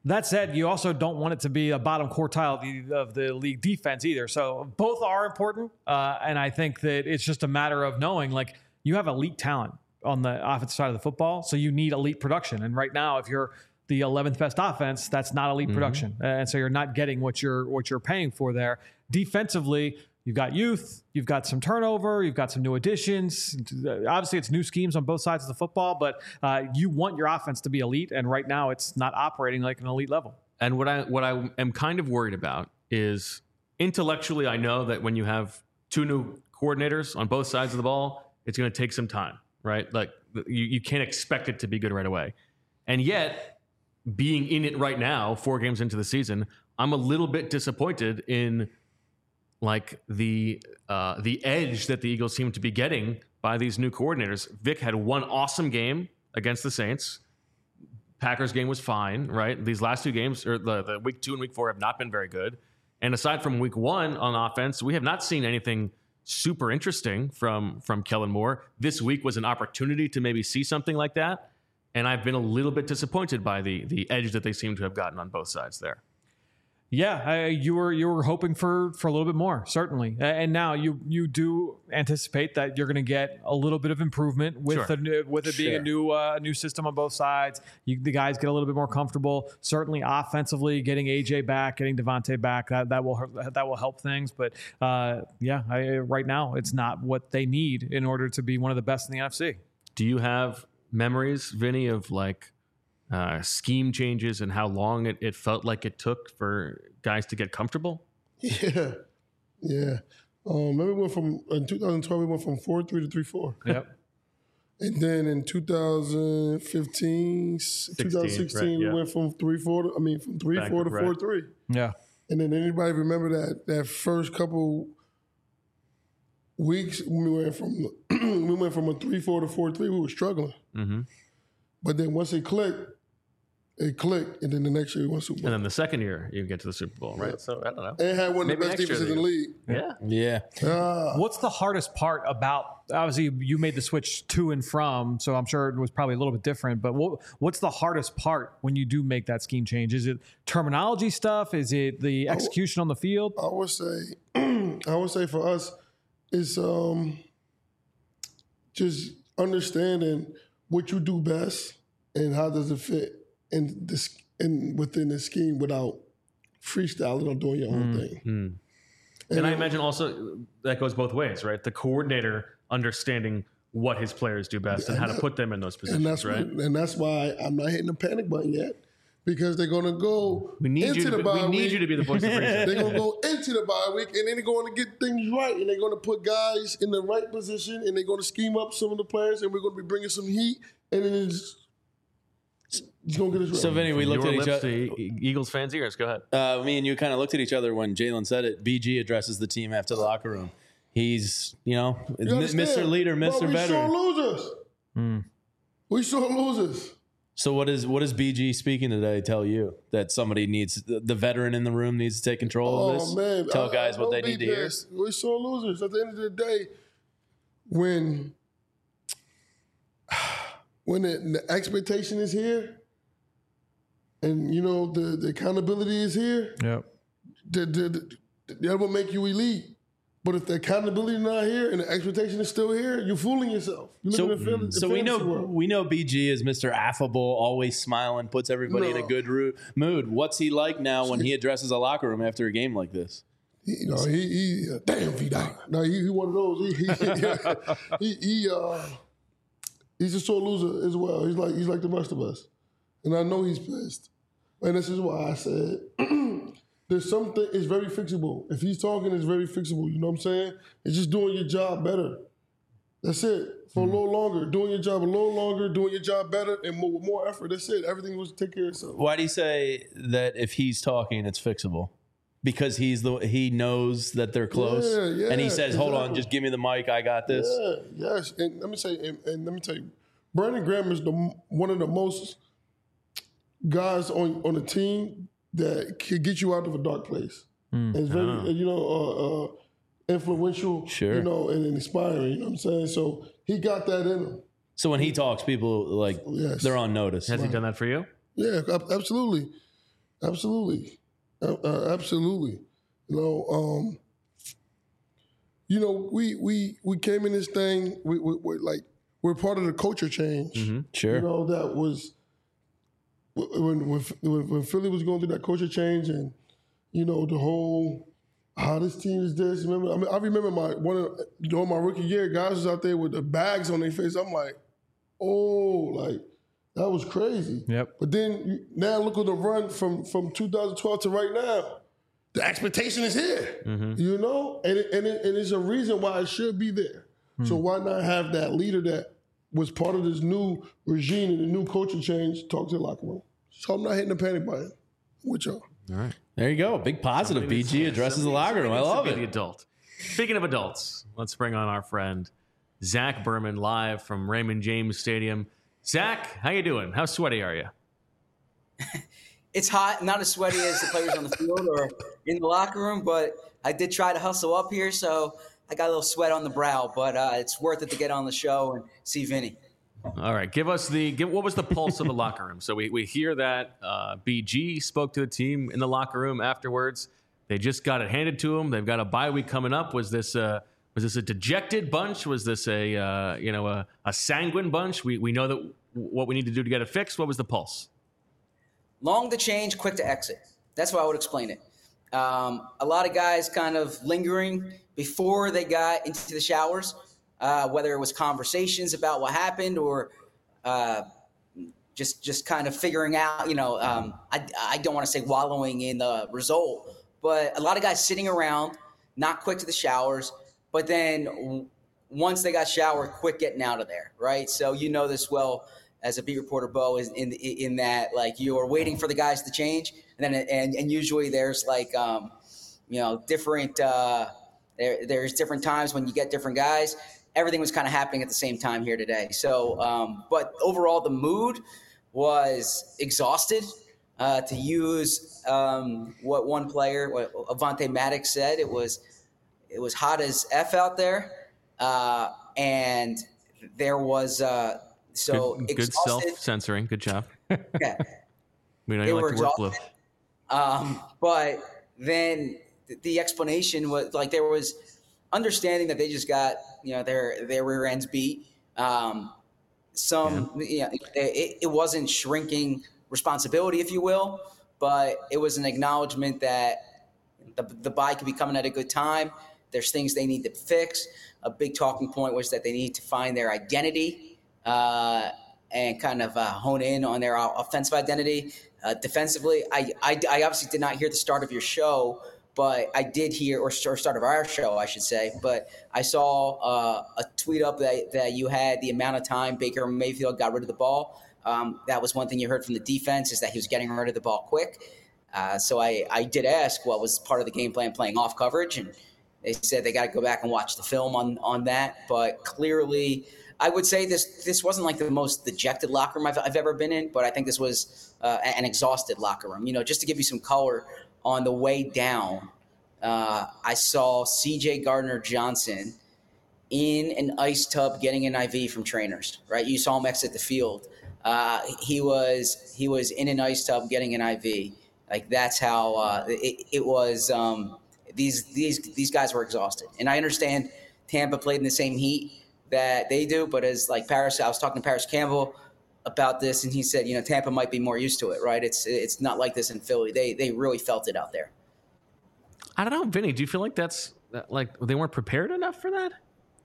That said, you also don't want it to be a bottom quartile of the, of the league defense either. So both are important. Uh, and I think that it's just a matter of knowing, like, you have elite talent on the offensive side of the football. So you need elite production. And right now, if you're the eleventh best offense, that's not elite mm-hmm. production. And so you're not getting what you're, what you're paying for there. Defensively, you've got youth, you've got some turnover, you've got some new additions. Obviously, it's new schemes on both sides of the football, but uh, you want your offense to be elite, and right now it's not operating like an elite level. And what I what I am kind of worried about is intellectually, I know that when you have two new coordinators on both sides of the ball, it's going to take some time, right? Like you, you can't expect it to be good right away. And yet, being in it right now, four games into the season, I'm a little bit disappointed in like the uh, the edge that the Eagles seem to be getting by these new coordinators. Vic had one awesome game against the Saints. Packers game was fine, right? These last two games, or the, the week two and week four, have not been very good. And aside from week one on offense, we have not seen anything super interesting from from Kellen Moore. This week was an opportunity to maybe see something like that. And I've been a little bit disappointed by the the edge that they seem to have gotten on both sides there. Yeah, I, you were you were hoping for for a little bit more, certainly, and now you you do anticipate that you're going to get a little bit of improvement with Sure. the with it being Sure. a new uh, new system on both sides. You, the guys get a little bit more comfortable. Certainly, offensively, getting A J back, getting Devontae back, that that will that will help things. But uh, yeah, I, right now it's not what they need in order to be one of the best in the N F C. Do you have memories, Vinny, of like uh, scheme changes and how long it, it felt like it took for guys to get comfortable? Yeah, yeah. Um, maybe we went from in twenty twelve we went from four three to three four. Yep. And then in twenty fifteen, twenty sixteen, right, yeah. we went from three four. To, I mean, from three Back four to right. four three. Yeah. And then anybody remember that that first couple weeks when we went from we went from a three four to four three, we were struggling. Mm-hmm. But then once it clicked, it clicked, and then the next year we won Super Bowl. And then the second year you get to the Super Bowl, right? So I don't know. And had one of the Maybe best next year defenses in the they- league. Yeah. Yeah. Ah. What's the hardest part about, obviously you made the switch to and from, so I'm sure it was probably a little bit different, but what, what's the hardest part when you do make that scheme change? Is it terminology stuff? Is it the execution on the field? I would say, I would say for us, it's um, just understanding what you do best and how does it fit in this in within the scheme without freestyling or doing your own thing. Mm. And, I imagine also that goes both ways, right? The coordinator understanding what his players do best and, And how to that- put them in those And positions, that's right? what, and that's why I'm not hitting the panic button yet, because they're gonna go We need into you to the be- bye we need week. you to be the voice of reason. They're gonna go into the bye week, and then they're going to get things right, and they're going to put guys in the right position, and they're going to scheme up some of the players, and we're going to be bringing some heat, and then it's, it's going to get us right. So, Vinny, we From looked your at each lips other. to E- Eagles fans' ears. Go ahead. Uh, me and you kind of looked at each other when Jalen said it. B G addresses the team after the locker room. He's, you know, You understand? Mister Leader, Mister But we Veteran. saw losers. Mm. We saw losers. So what is what does B G speaking today tell you? That somebody needs the, the veteran in the room needs to take control of this. Oh, man. Tell I- guys I what they don't need be to hear. pissed. We saw losers. At the end of the day, when when the, the expectation is here, and you know the, the accountability is here, Yep. the, the, the, that will make you elite. But if the accountability is not here and the expectation is still here, you're fooling yourself. You're So, living in a fan- so we know fantasy world. we know B G is Mister Affable, always smiling, puts everybody in a No. good ro- mood. What's he like now when he addresses a locker room after a game like this? He, you know, he, he uh, damn Vida. No, he, he one of those. He, he, he, he uh, he's a sore loser as well. He's like he's like the rest of us, and I know he's pissed. And this is why I said there's something. It's very fixable. If he's talking, it's very fixable. You know what I'm saying? It's just doing your job better. That's it. For Mm-hmm. a little longer, doing your job a little longer, doing your job better, and more, with more effort. That's it. Everything will take care of itself. Why do you say that if he's talking, it's fixable? Because he's the he knows that they're close, Yeah, yeah, and he says, "Hold on, exactly. just give me the mic. I got this." Yeah, yes. And let me say, and, and let me tell you, Brandon Graham is the one of the most guys on on the team that can get you out of a dark place. Mm. And it's very, Oh. you know, uh, uh, influential. Sure. You know, and inspiring. You know what I'm saying? So he got that in him. So when he talks, people like Yes. they're on notice. Has he done that for you? Yeah, ab- absolutely. Absolutely, uh, uh, absolutely. You know, um, you know, we we we came in this thing. We, we, we like we're part of the culture change. Mm-hmm. Sure. You know, that was when when when Philly was going through that culture change, and you know the whole how this team is this. Remember, I mean, I remember my one of during my rookie year, guys was out there with the bags on their face. I'm like, oh, like. That was crazy. Yep. But then you, now look at the run from, from two thousand twelve to right now. The expectation is here, Mm-hmm. you know? And, it, and, it, and it's a reason why it should be there. Hmm. So why not have that leader that was part of this new regime and the new coaching change talk to the locker room? So I'm not hitting the panic button with y'all. All right. There you go. Big positive. B G addresses the locker room. I love it. it. The adult. Speaking of adults, let's bring on our friend Zach Berman live from Raymond James Stadium. Zach, how you doing? How sweaty are you? It's hot, not as sweaty as the players on the field or in the locker room, but I did try to hustle up here, so I got a little sweat on the brow, but uh, it's worth it to get on the show and see Vinny. All right, give us the give. What was the pulse of the locker room? So we we hear that uh, B G spoke to the team in the locker room afterwards. They just got it handed to them. They've got a bye week coming up. Was this uh, was this a dejected bunch? Was this a uh, you know a, a sanguine bunch? We we know that what we need to do to get it fixed. What was the pulse? Long to change, quick to exit. That's how I would explain it. Um, a lot of guys kind of lingering before they got into the showers, uh, whether it was conversations about what happened or uh, just just kind of figuring out, you know, um, I, I don't want to say wallowing in the result, but a lot of guys sitting around, not quick to the showers, but then w- once they got showered, quick getting out of there, right? So you know this well as a beat reporter, Bo, is in in that like you're waiting for the guys to change, and then and and usually there's like um, you know different uh, there there's different times when you get different guys. Everything was kind of happening at the same time here today. So, um, but overall, the mood was exhausted. Uh, to use um, what one player, what Avante Maddox said, it was it was hot as F out there, uh, and there was. Uh, So good, good self-censoring. Good job. Yeah. We know They you were like to work blue. exhausted. Um, but then the explanation was like there was understanding that they just got you know their their rear ends beat. Um, some yeah, you know, it, it wasn't shrinking responsibility, if you will, but it was an acknowledgement that the the bye could be coming at a good time. There's things they need to fix. A big talking point was that they need to find their identity. Uh, and kind of uh, hone in on their offensive identity. Uh, defensively, I, I, I obviously did not hear the start of your show, but I did hear, or start of our show, I should say, but I saw uh, a tweet up that, that you had the amount of time Baker Mayfield got rid of the ball. Um, that was one thing you heard from the defense is that he was getting rid of the ball quick. Uh, so I, I did ask what was part of the game plan playing off coverage, and they said they got to go back and watch the film on, on that, but clearly – I would say this this wasn't like the most dejected locker room I've, I've ever been in, but I think this was uh, an exhausted locker room. You know, just to give you some color on the way down, uh, I saw C J Gardner-Johnson in an ice tub getting an I V from trainers, right? You saw him exit the field. Uh, he was he was in an ice tub getting an I V. Like that's how uh, it, it was. Um, these these these guys were exhausted, and I understand Tampa played in the same heat that they do, but as like Paris, I was talking to Paris Campbell about this, and he said, you know, Tampa might be more used to it, right? It's it's not like this in Philly. They they really felt it out there. I don't know, Vinny. Do you feel like that's like they weren't prepared enough for that?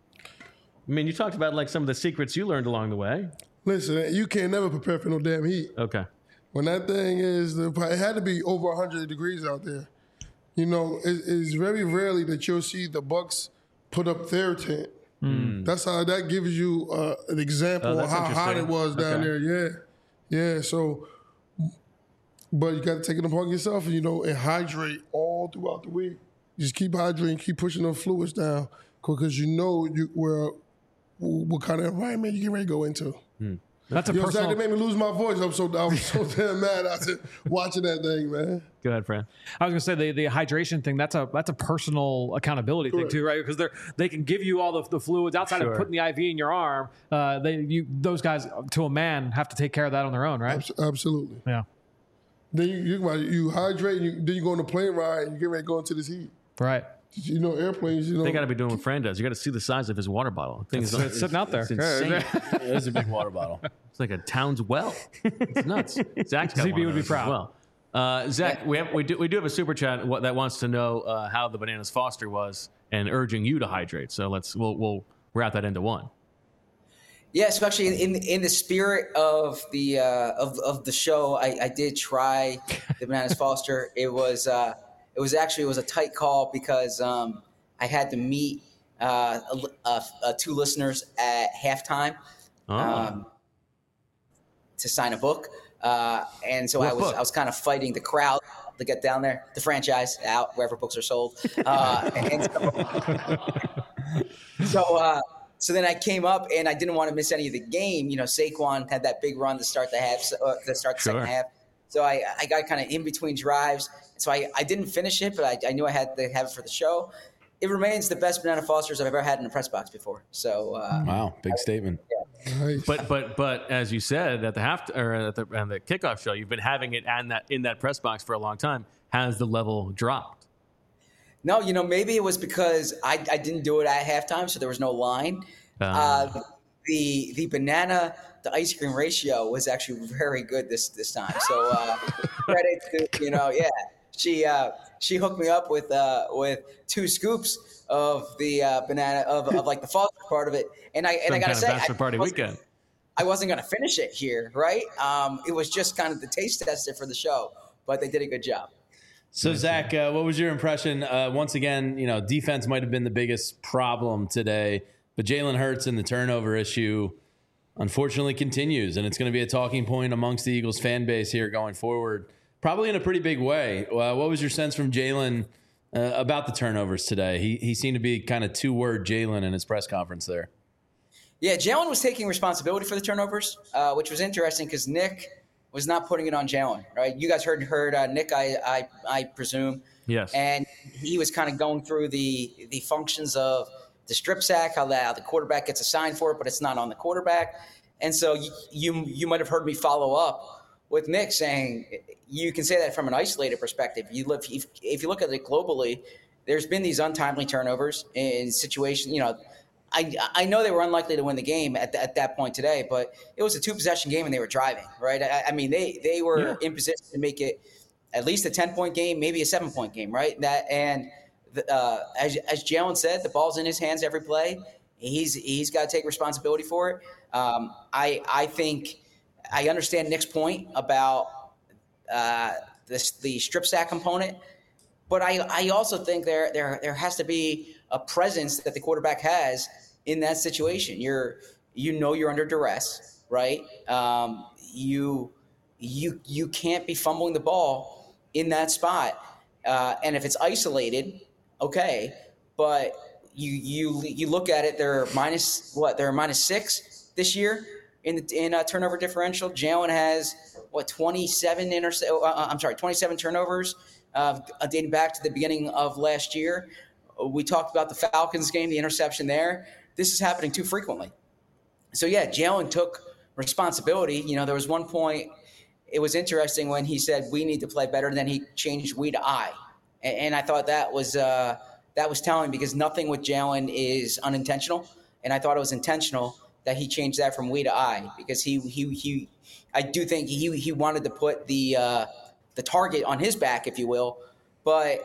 I mean, you talked about like some of the secrets you learned along the way. Listen, you can't never prepare for no damn heat. Okay. When that thing is, it had to be over one hundred degrees out there. You know, it, it's very rarely that you'll see the Bucks put up their tent. Mm. That's how that gives you uh, an example Oh, of how hot it was down Okay. there. Yeah, yeah. So, but you got to take it upon yourself, and you know, and hydrate all throughout the week. Just keep hydrating, keep pushing those fluids down, because you know you where what kind of environment you get ready to go into. Hmm. That's a Yo, personal. Zach, that made me lose my voice. I'm so I was so damn mad after watching that thing, man. Go ahead, Fran. I was gonna say the, the hydration thing. That's a that's a personal accountability Correct. thing too, right? Because they they can give you all the, the fluids outside Sure. of putting the I V in your arm. Uh, they you those guys to a man have to take care of that on their own, right? Abs- Absolutely. Yeah. Then you you, you hydrate, and you, then you go on the plane ride, and you get ready to go into this heat. Right. You know, airplanes. You know, They got to be doing what Fran does. You got to see the size of his water bottle. The thing It's- is, it's sitting out there. It's insane. Yeah, it's a big water bottle. It's like a town's well. It's nuts. Zach's got Z B one of would be those as proud. well. Uh, Zach, we have, we do we do have a super chat wa- that wants to know uh, how the Bananas Foster was and urging you to hydrate. So let's we'll we'll wrap that into one. Yeah, especially in in the spirit of the uh, of of the show, I, I did try the Bananas Foster. It was uh, it was actually it was a tight call because um, I had to meet uh, a, a, a two listeners at halftime Oh. um, to sign a book, uh, and so What I was book? I was kind of fighting the crowd to get down there. The franchise out wherever books are sold, uh, and so. so uh, So then I came up and I didn't want to miss any of the game. You know, Saquon had that big run to start the half, uh, to start the Sure. second half. So I, I got kind of in between drives. So I, I didn't finish it, but I, I knew I had to have it for the show. It remains the best Banana Fosters I've ever had in a press box before. So uh, Wow, big statement. But but but as you said at the half or at the, at the kickoff show, you've been having it and that in that press box for a long time. Has the level dropped? No, you know, maybe it was because I, I didn't do it at halftime, so there was no line. Uh, Uh, the the banana to ice cream ratio was actually very good this this time. So uh, credit to, you know, yeah, she uh, she hooked me up with uh, with two scoops of the uh, banana of, of like the Foster part of it, and I and Some I gotta kind say, of bachelor I party wasn't- weekend. I wasn't gonna finish it here, right? Um, it was just kind of the taste tester for the show, but they did a good job. So Zach, uh, what was your impression? Uh, once again, you know, defense might have been the biggest problem today, but Jalen Hurts and the turnover issue, unfortunately, continues, and it's going to be a talking point amongst the Eagles fan base here going forward, probably in a pretty big way. Uh, what was your sense from Jalen uh, about the turnovers today? He he seemed to be kind of two word Jalen in his press conference there. Yeah, Jalen was taking responsibility for the turnovers, uh, which was interesting because Nick was not putting it on Jalen, right? You guys heard heard uh, Nick, I, I I presume. Yes. And he was kind of going through the the functions of the strip sack, how the, how the quarterback gets assigned for it, but it's not on the quarterback. And so you you, you might have heard me follow up with Nick saying you can say that from an isolated perspective. You live if, if you look at it globally, there's been these untimely turnovers in situations, you know. I, I know they were unlikely to win the game at, the, at that point today, but it was a two-possession game and they were driving, right? I, I mean, they they were Yeah. in position to make it at least a ten-point game, maybe a seven-point game, right? That and the, uh, as as Jalen said, the ball's in his hands every play. He's he's got to take responsibility for it. Um, I I think I understand Nick's point about uh, this, the strip sack component, but I I also think there there there has to be a presence that the quarterback has in that situation. You're, you know, you're under duress, right? Um, you, you, you can't be fumbling the ball in that spot. Uh, and if it's isolated, okay, but you, you, you look at it, they're minus what? They're minus six this year in the, in a turnover differential. Jalen has what twenty-seven intercept. Uh, I'm sorry, twenty-seven turnovers uh, dating back to the beginning of last year. We talked about the Falcons game, the interception there. This is happening too frequently. So, yeah, Jalen took responsibility. You know, there was one point, it was interesting when he said, we need to play better, and then he changed we to I. And, and I thought that was uh, that was telling because nothing with Jalen is unintentional. And I thought it was intentional that he changed that from we to I because he, he, he I do think he, he wanted to put the, uh, the target on his back, if you will. But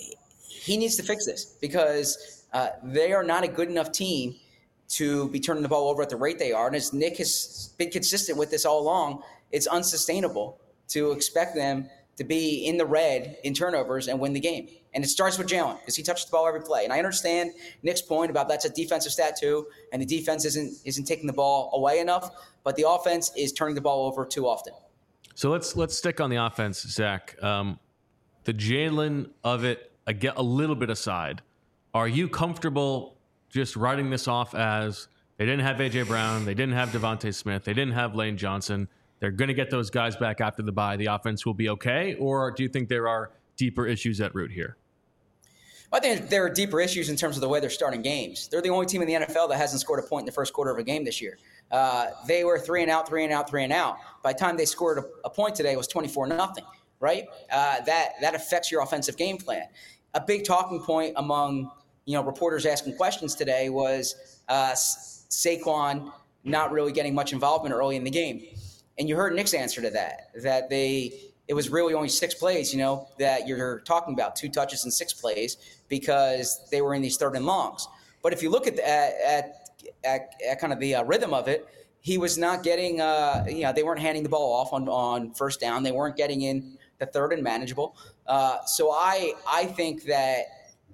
he needs to fix this because uh, they are not a good enough team to be turning the ball over at the rate they are. And as Nick has been consistent with this all along, it's unsustainable to expect them to be in the red in turnovers and win the game. And it starts with Jalen because he touches the ball every play. And I understand Nick's point about that's a defensive stat too, and the defense isn't isn't taking the ball away enough, but the offense is turning the ball over too often. So let's let's stick on the offense, Zach. Um, the Jalen of it, I get a little bit aside. Are you comfortable just writing this off as they didn't have A J Brown, they didn't have Devontae Smith, they didn't have Lane Johnson, they're going to get those guys back after the bye, the offense will be okay? Or do you think there are deeper issues at root here? I think there are deeper issues in terms of the way they're starting games. They're the only team in the N F L that hasn't scored a point in the first quarter of a game this year. Uh, they were three and out, three and out, three and out. By the time they scored a, a point today, it was twenty-four nothing, right? Uh, that that affects your offensive game plan. A big talking point among you know reporters asking questions today was uh, Saquon not really getting much involvement early in the game, and you heard Nick's answer to that. That they it was really only six plays, you know, that you're talking about, two touches and six plays because they were in these third and longs. But if you look at the, at, at, at, at kind of the uh, rhythm of it, he was not getting, uh, you know, they weren't handing the ball off on, on first down. They weren't getting in the third and manageable. Uh, so I I think that,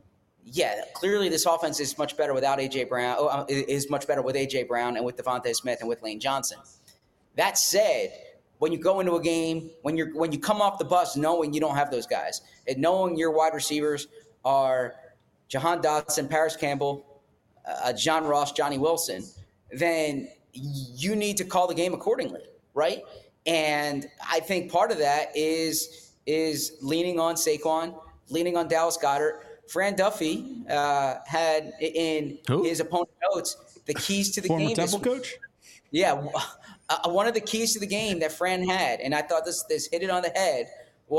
yeah, clearly this offense is much better without A J. Brown, oh, is much better with A J. Brown and with Devontae Smith and with Lane Johnson. That said, when you go into a game, when you're when you come off the bus knowing you don't have those guys, and knowing your wide receivers are Jahan Dotson, Paris Campbell, uh, John Ross, Johnny Wilson, then you need to call the game accordingly, right? And I think part of that is is leaning on Saquon, leaning on Dallas Goedert. Fran Duffy uh, had in Who? his opponent notes the keys to the Former game. Temple this, coach? Yeah. Uh, one of the keys to the game that Fran had, and I thought this this hit it on the head,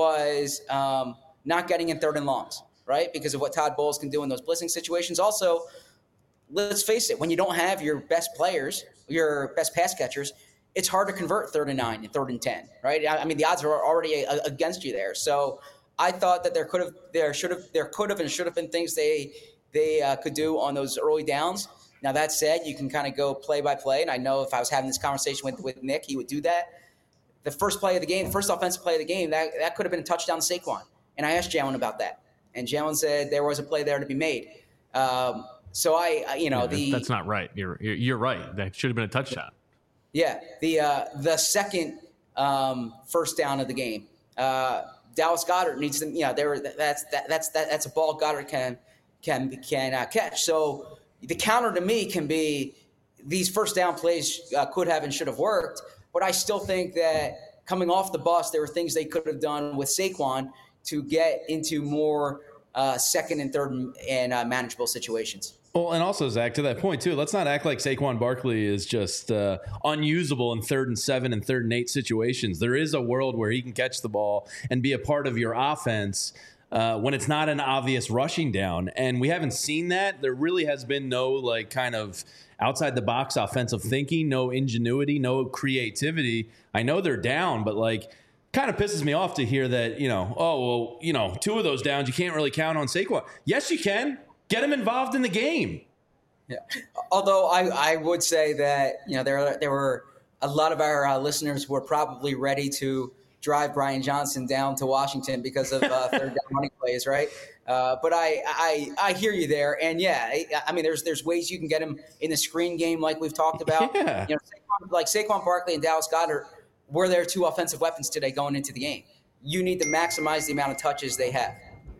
was um, not getting in third and longs, right? Because of what Todd Bowles can do in those blitzing situations. Also, let's face it, when you don't have your best players, your best pass catchers, it's hard to convert third and nine and third and ten, right? I, I mean, the odds are already a, against you there. So I thought that there could have, there should have, there could have, and should have been things they they uh, could do on those early downs. Now, that said, you can kind of go play by play, and I know if I was having this conversation with, with Nick, he would do that. The first play of the game, the first offensive play of the game, that, that could have been a touchdown to Saquon. And I asked Jalen about that, and Jalen said there was a play there to be made. Um, so I, I, you know, Yeah, the that's not right. You're you're you're right. That should have been a touchdown. yeah, the uh, the second um, first down of the game, uh, Dallas Goedert needs to, you know, there that's that, that's that, that's a ball Goddard can can can uh, catch. So the counter to me can be these first down plays uh, could have and should have worked, but I still think that coming off the bus, there were things they could have done with Saquon to get into more uh, second and third and uh, manageable situations. Well, and also, Zach, to that point, too, let's not act like Saquon Barkley is just uh, unusable in third and seven and third and eight situations. There is a world where he can catch the ball and be a part of your offense Uh, when it's not an obvious rushing down. And we haven't seen that. There really has been no like kind of outside the box offensive thinking, no ingenuity, no creativity. I know they're down, but like kind of pisses me off to hear that, you know, oh, well, you know, two of those downs, you can't really count on Saquon. Yes, you can. Get him involved in the game. Yeah. Although I, I would say that, you know, there, there were a lot of our uh, listeners who were probably ready to drive Brian Johnson down to Washington because of uh, third down running plays, right? Uh, but I, I I hear you there, and yeah, I, I mean, there's there's ways you can get him in the screen game, like we've talked about. Yeah. You know, Saquon, like Saquon Barkley and Dallas Goedert were their two offensive weapons today going into the game. You need to maximize the amount of touches they have.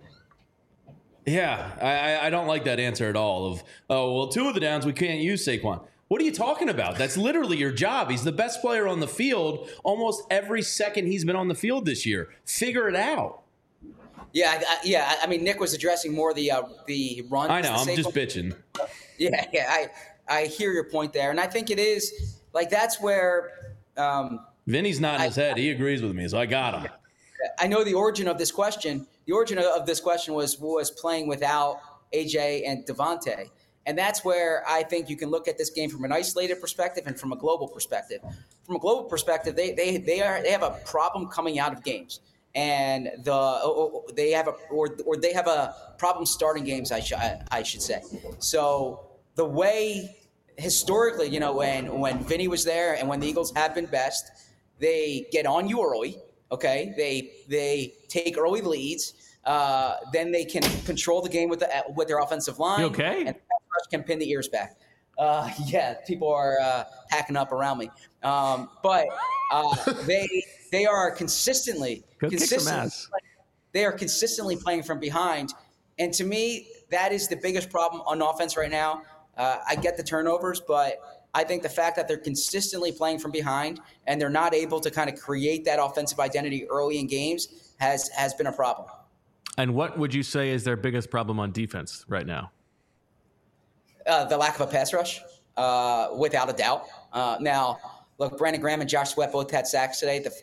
Yeah, I, I don't like that answer at all. Of oh well, two of the downs we can't use Saquon. What are you talking about? That's literally your job. He's the best player on the field almost every second he's been on the field this year. Figure it out. Yeah, I, I, yeah. I mean, Nick was addressing more the uh, the run. I know. I'm just bitching. Yeah, yeah. I I hear your point there, and I think it is like that's where um, Vinny's nodding his head. He agrees with me, so I got him. I know the origin of this question. The origin of this question was was playing without A J and Devontae. And that's where I think you can look at this game from an isolated perspective and from a global perspective. From a global perspective, they they they are they have a problem coming out of games, and the they have a or or they have a problem starting games. I should I should say. So the way historically, you know, when when Vinny was there and when the Eagles have been best, they get on you early. Okay, they they take early leads. Uh, then they can control the game with the with their offensive line. You okay? And can pin the ears back. Uh, yeah, people are uh, hacking up around me. Um, but uh, they they are consistently Go kick some consistently ass. they are consistently playing from behind, and to me, that is the biggest problem on offense right now. Uh, I get the turnovers, but I think the fact that they're consistently playing from behind and they're not able to kind of create that offensive identity early in games has has been a problem. And what would you say is their biggest problem on defense right now? Uh, the lack of a pass rush, uh, without a doubt. Uh, now, look, Brandon Graham and Josh Sweat both had sacks today. The,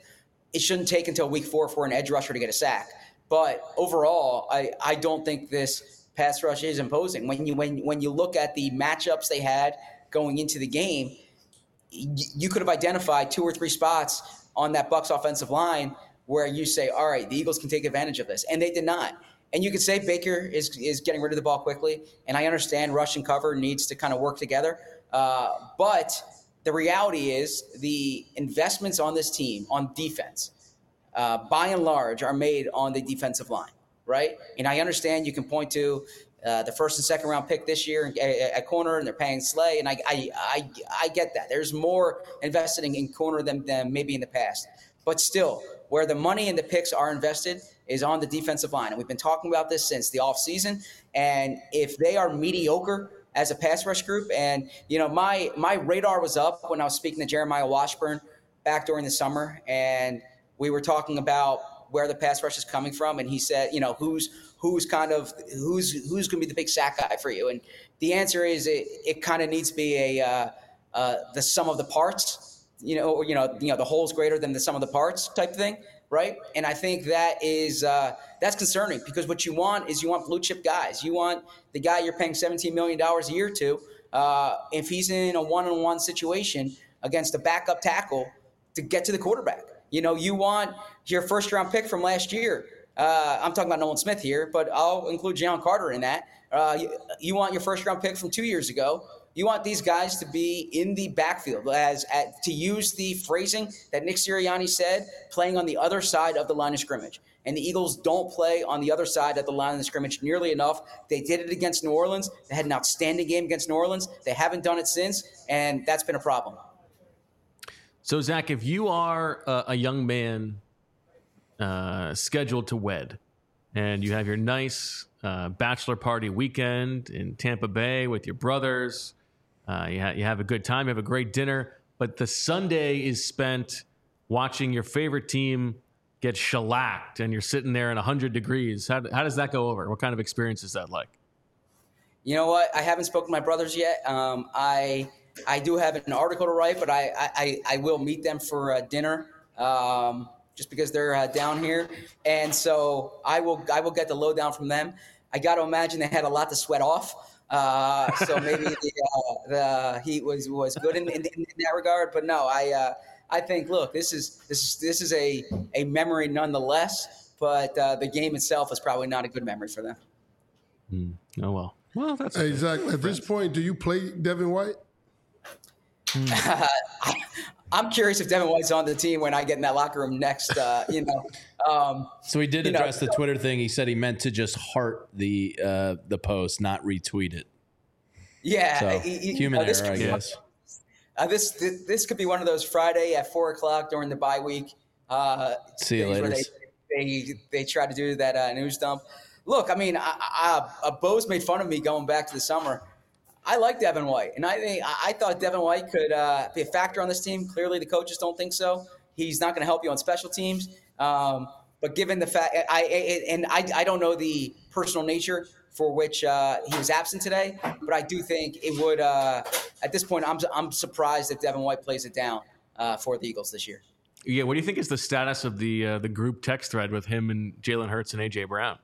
it shouldn't take until week four for an edge rusher to get a sack. But overall, I, I don't think this pass rush is imposing. When you when when you look at the matchups they had going into the game, y- you could have identified two or three spots on that Bucs offensive line where you say, all right, the Eagles can take advantage of this. And they did not. And you could say Baker is is getting rid of the ball quickly. And I understand rush and cover needs to kind of work together. Uh, but the reality is the investments on this team on defense, uh, by and large, are made on the defensive line, right? And I understand you can point to uh, the first and second round pick this year at, at corner, and they're paying Slay. And I, I, I, I get that. There's more invested in, in corner than, than maybe in the past. But still, where the money and the picks are invested is on the defensive line. And we've been talking about this since the offseason. And if they are mediocre as a pass rush group, and, you know, my my radar was up when I was speaking to Jeremiah Washburn back during the summer, and we were talking about where the pass rush is coming from. And he said, you know, who's who's kind of who's who's going to be the big sack guy for you? And the answer is it, it kind of needs to be a uh, uh, the sum of the parts. You know, or, you know, you know, the whole's greater than the sum of the parts type thing, right? And I think that is uh, that's concerning, because what you want is you want blue chip guys. You want the guy you're paying seventeen million dollars a year to, uh, if he's in a one-on-one situation against a backup tackle, to get to the quarterback. You know, you want your first-round pick from last year. Uh, I'm talking about Nolan Smith here, but I'll include Jalen Carter in that. Uh, you, you want your first-round pick from two years ago. You want these guys to be in the backfield, as at, to use the phrasing that Nick Sirianni said, playing on the other side of the line of scrimmage. And the Eagles don't play on the other side of the line of scrimmage nearly enough. They did it against New Orleans. They had an outstanding game against New Orleans. They haven't done it since, and that's been a problem. So, Zach, if you are a, a young man uh, scheduled to wed, and you have your nice uh, bachelor party weekend in Tampa Bay with your brothers, Uh, you, ha- you have a good time, you have a great dinner, but the Sunday is spent watching your favorite team get shellacked, and you're sitting there in one hundred degrees. How, how does that go over? What kind of experience is that like? You know what? I haven't spoken to my brothers yet. Um, I I do have an article to write, but I I, I will meet them for uh, dinner, um, just because they're uh, down here, and so I will I will get the lowdown from them. I got to imagine they had a lot to sweat off. Uh, so maybe the, uh, the heat was, was good in, in, in that regard, but no, I, uh, I think, look, this is, this is, this is a, a memory nonetheless, but, uh, the game itself is probably not a good memory for them. Mm. Oh, well, well, that's hey, Zach, at this point, do you play Devin White? Mm. I'm curious if Devin White's on the team when I get in that locker room next, uh, you know. Um, so he did address know, the Twitter thing. He said he meant to just heart the uh, the post, not retweet it. Yeah. So, he, human uh, this error, I guess. Uh, this, this this could be one of those Friday at four o'clock during the bye week. Uh, See you later. They, they, they try to do that uh, news dump. Look, I mean, I, I, uh, Bo's made fun of me going back to the summer. I like Devin White, and I think I thought Devin White could uh, be a factor on this team. Clearly, the coaches don't think so. He's not going to help you on special teams. Um, but given the fact, I, I and I, I don't know the personal nature for which uh, he was absent today, but I do think it would. Uh, at this point, I'm I'm surprised if Devin White plays it down uh, for the Eagles this year. Yeah, what do you think is the status of the uh, the group text thread with him and Jalen Hurts and A J Brown?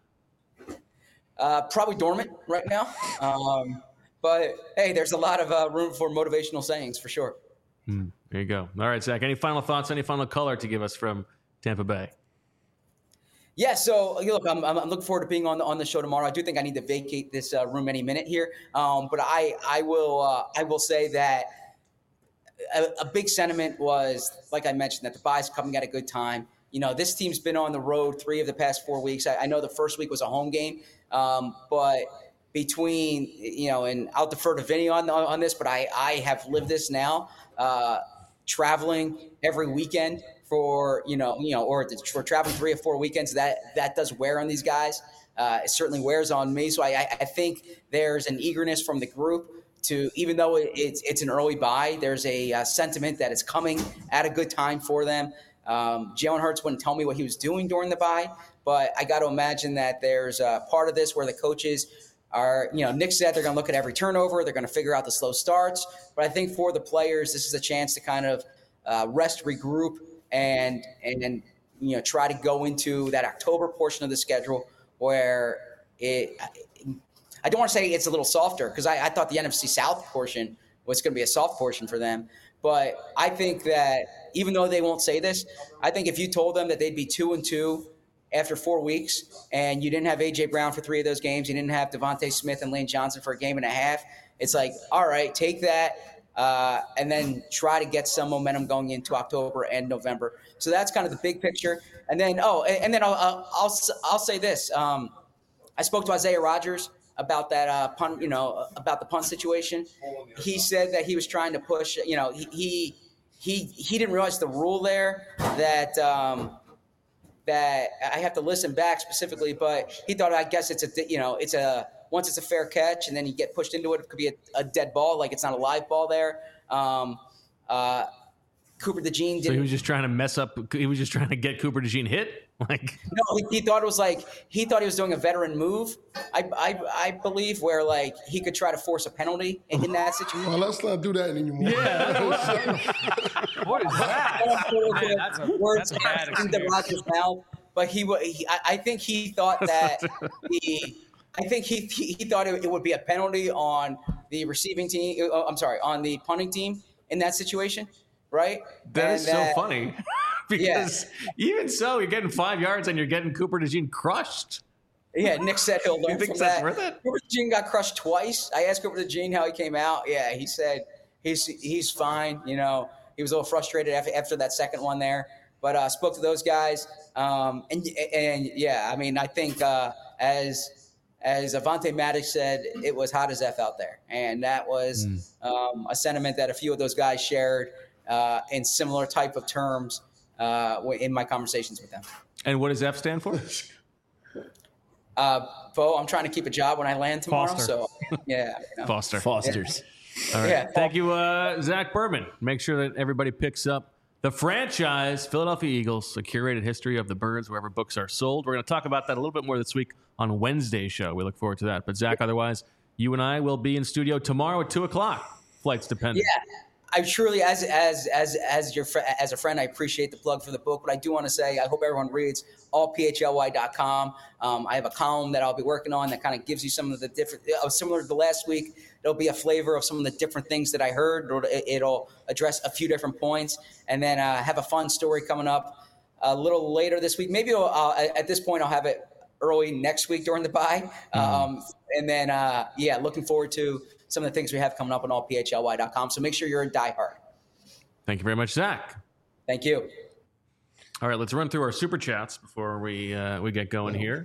Uh, probably dormant right now. Um, But, hey, there's a lot of uh, room for motivational sayings, for sure. Mm, there you go. All right, Zach, any final thoughts, any final color to give us from Tampa Bay? Yeah, so, look, I'm, I'm looking forward to being on the, on the show tomorrow. I do think I need to vacate this uh, room any minute here. Um, but I, I, will, uh, I will say that a, a big sentiment was, like I mentioned, that the bye's coming at a good time. You know, this team's been on the road three of the past four weeks. I, I know the first week was a home game, um, but – between, you know, and I'll defer to Vinny on on this, but I, I have lived this now, uh, traveling every weekend for, you know, you know, or for traveling three or four weekends, that, that does wear on these guys. Uh, it certainly wears on me. So I, I think there's an eagerness from the group to, even though it's, it's an early bye, there's a uh, sentiment that it's coming at a good time for them. Um, Jalen Hurts wouldn't tell me what he was doing during the bye, but I got to imagine that there's a part of this where the coaches are, you know, Nick said they're going to look at every turnover. They're going to figure out the slow starts. But I think for the players, this is a chance to kind of uh, rest, regroup, and and you know, try to go into that October portion of the schedule where it, I don't want to say it's a little softer because I, I thought the N F C South portion was going to be a soft portion for them. But I think that even though they won't say this, I think if you told them that they'd be two and two after four weeks and you didn't have A J Brown for three of those games, you didn't have Devontae Smith and Lane Johnson for a game and a half, it's like, all right, take that uh, and then try to get some momentum going into October and November. So that's kind of the big picture. And then, oh, and then I'll I'll, I'll, I'll say this. Um, I spoke to Isaiah Rodgers about that uh, punt, you know, about the punt situation. He said that he was trying to push, you know, he he he, he didn't realize the rule there that um, that I have to listen back specifically, but he thought, I guess it's a, you know, it's a, once it's a fair catch and then you get pushed into it, it could be a, a dead ball, like it's not a live ball there. Um, uh, Cooper DeJean didn't. So he was just trying to mess up. He was just trying to get Cooper DeJean hit. Like no, he, he thought it was like he thought he was doing a veteran move. I I, I believe where like he could try to force a penalty in, in that situation. Well, let's not do that anymore. Yeah. What is that? Man, that's a, Words that's a bad in the Rodgers' mouth, but he, he I, I think he thought that the. I think he he, he thought it, it would be a penalty on the receiving team. Oh, I'm sorry, on the punting team in that situation, right? That and is so that, funny. Because yeah. even so, you're getting five yards and you're getting Cooper DeJean crushed. Yeah, Nick said he'll learn you think from that's that. Worth it? Cooper DeJean got crushed twice. I asked Cooper DeJean how he came out. Yeah, he said he's he's fine. You know, he was a little frustrated after, after that second one there. But I uh, spoke to those guys. Um, and, and, yeah, I mean, I think uh, as as Avonte Maddox said, it was hot as F out there. And that was mm. um, a sentiment that a few of those guys shared uh, in similar type of terms uh, in my conversations with them. And what does F stand for? Uh, Bo, I'm trying to keep a job when I land tomorrow. Foster. So, yeah. You know. Foster. Fosters. Yeah. All right. Yeah. Thank you, uh, Zach Berman. Make sure that everybody picks up the franchise, Philadelphia Eagles, a curated history of the Birds, wherever books are sold. We're going to talk about that a little bit more this week on Wednesday's show. We look forward to that. But, Zach, otherwise, you and I will be in studio tomorrow at two o'clock. Flights dependent. Yeah. I truly, as as as as your fr- as a friend, I appreciate the plug for the book. But I do want to say, I hope everyone reads all P H L Y dot com. Um, I have a column that I'll be working on that kind of gives you some of the different, uh, similar to last week. It'll be a flavor of some of the different things that I heard. It'll, it'll address a few different points, and then uh, have a fun story coming up a little later this week. Maybe uh, at this point I'll have it early next week during the bye, mm-hmm. um, and then uh, yeah, looking forward to some of the things we have coming up on all P H L Y dot com. So make sure you're a diehard. Thank you very much, Zach. Thank you. All right, let's run through our super chats before we uh, we get going here.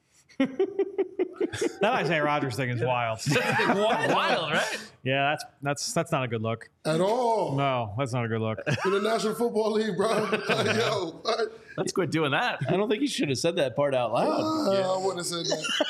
That Isaiah Rodgers thing is wild. wild, wild, right? Yeah, that's that's that's not a good look at all. No, that's not a good look. In the National Football League, bro. Like, yo, what? Let's quit doing that. I don't think you should have said that part out loud. Uh, yeah. I wouldn't have said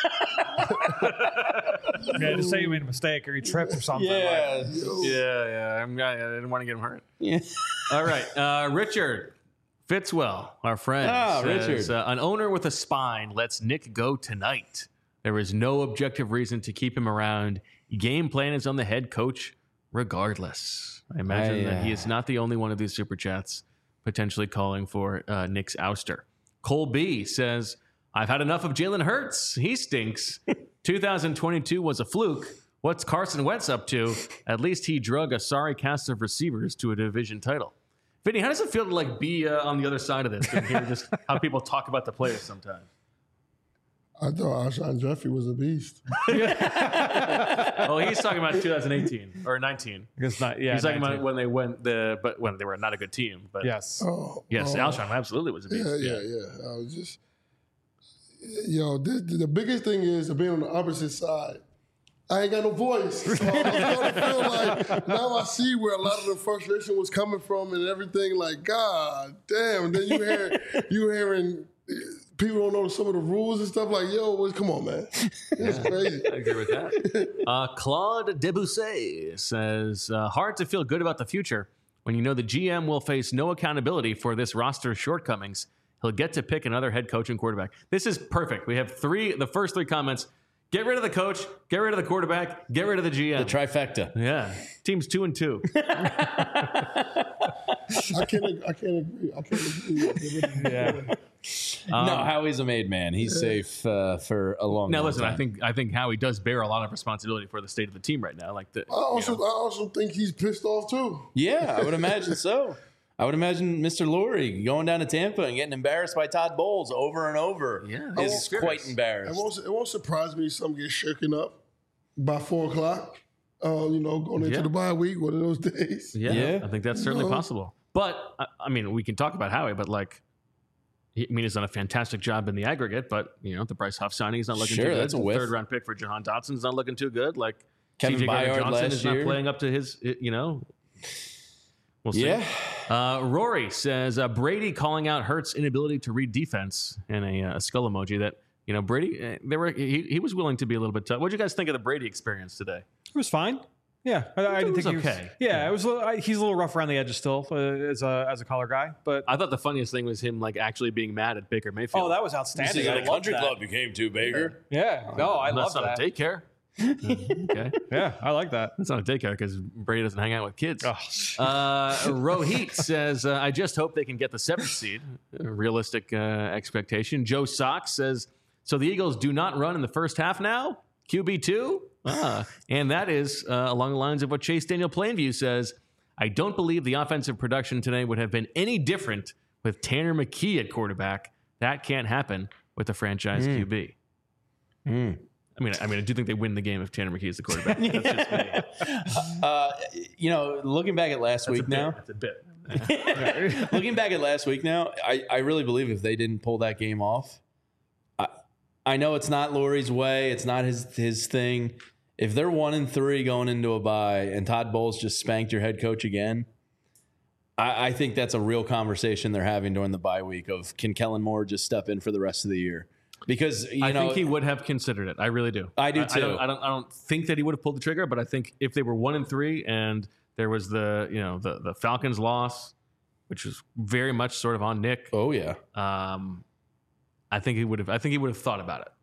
that. Yeah, just say you made a mistake or you tripped or something. Yeah, like. yeah, yeah. I'm, I didn't want to get him hurt. Yeah. All right, uh, Richard Fitzwell, our friend, ah, says, Richard. Uh, an owner with a spine lets Nick go tonight. There is no objective reason to keep him around. Game plan is on the head coach, regardless. I imagine I, uh... that he is not the only one of these super chats potentially calling for uh, Nick's ouster. Cole B says, I've had enough of Jalen Hurts. He stinks. two thousand twenty-two was a fluke. What's Carson Wentz up to? At least he drug a sorry cast of receivers to a division title. Vinny, how does it feel to like be uh, on the other side of this and hear just how people talk about the players sometimes? I thought Alshon Jeffrey was a beast. Oh, he's talking about two thousand eighteen or nineteen. It's not, yeah, he's talking nineteen. about when they went the, but when they were not a good team. But yes, oh, yes, oh. Alshon absolutely was a beast. Yeah, yeah, yeah. yeah. I was just, yo, this, the biggest thing is being on the opposite side. I ain't got no voice. So I was starting to feel like now I see where a lot of the frustration was coming from and everything. Like, God damn. And then you hear you hearing people don't know some of the rules and stuff. Like, yo, come on, man. It's crazy. I agree with that. Uh, Claude Debussy says, uh, hard to feel good about the future when you know the G M will face no accountability for this roster's shortcomings. He'll get to pick another head coach and quarterback. This is perfect. We have three, the first three comments. Get rid of the coach, get rid of the quarterback, get rid of the G M. The trifecta. Yeah. Team's two and two. I can't. I can't agree. I can't agree. Yeah. Um, no, Howie's a made man. He's yeah. safe uh, for a long. Now, long listen. time. I think I think Howie does bear a lot of responsibility for the state of the team right now. Like the. I also, you know. I also think he's pissed off too. Yeah, I would imagine so. I would imagine Mister Lurie going down to Tampa and getting embarrassed by Todd Bowles over and over. Yeah, is quite embarrassed. It won't, it won't surprise me if something gets shaken up by four o'clock. Uh, you know, going into Yeah. the bye week, one of those days. Yeah, Yeah. I think that's certainly No. possible. But I, I mean, we can talk about Howie, but like, he, I mean, he's done a fantastic job in the aggregate. But you know, the Bryce Huff signing is not looking Sure, too good. that's a The whiff. third round pick for Jahan Dotson is not looking too good. Like Kevin C J Gardner Byard Johnson last is not year. playing up to his. You know, we'll see. Yeah. Uh, Rory says uh, Brady calling out Hurts' inability to read defense and a, uh, a skull emoji. That you know, Brady, uh, they were he, he was willing to be a little bit tough. What did you guys think of the Brady experience today? It was fine. Yeah, I, I didn't was think he was okay. Yeah, Yeah. it was. a little- I, he's a little rough around the edges still uh, as a as a color guy, but I thought the funniest thing was him like actually being mad at Baker Mayfield. oh, that was This outstanding. is I a loved country that. club you came to, Baker. Yeah, no, I That's love not that. a daycare. Okay. Yeah, I like that. That's not a daycare because Brady doesn't hang out with kids. Oh. Uh, Rohit says, uh, I just hope they can get the seventh seed. A realistic uh, expectation. Joe Sox says, so the Eagles do not run in the first half now? Q B two? Ah, and that is uh, along the lines of what Chase Daniel Plainview says. I don't believe the offensive production today would have been any different with Tanner McKee at quarterback. That can't happen with the franchise Mm. Q B. Mm. I mean, I mean, I do think they win the game if Tanner McKee is the quarterback. That's just me. Uh, you know, looking back at last That's a week bit. now, That's a bit. looking back at last week now, I, I really believe if they didn't pull that game off, I, I know it's not Lurie's way, it's not his his thing. If they're one and three going into a bye and Todd Bowles just spanked your head coach again, I, I think that's a real conversation they're having during the bye week of can Kellen Moore just step in for the rest of the year? Because you I know, think he would have considered it. I really do. I do I, too. don't, I don't. I don't think that he would have pulled the trigger, but I think if they were one and three and there was the you know the the Falcons loss, which was very much sort of on Nick. Oh yeah. Um, I think he would have. I think he would have thought about it.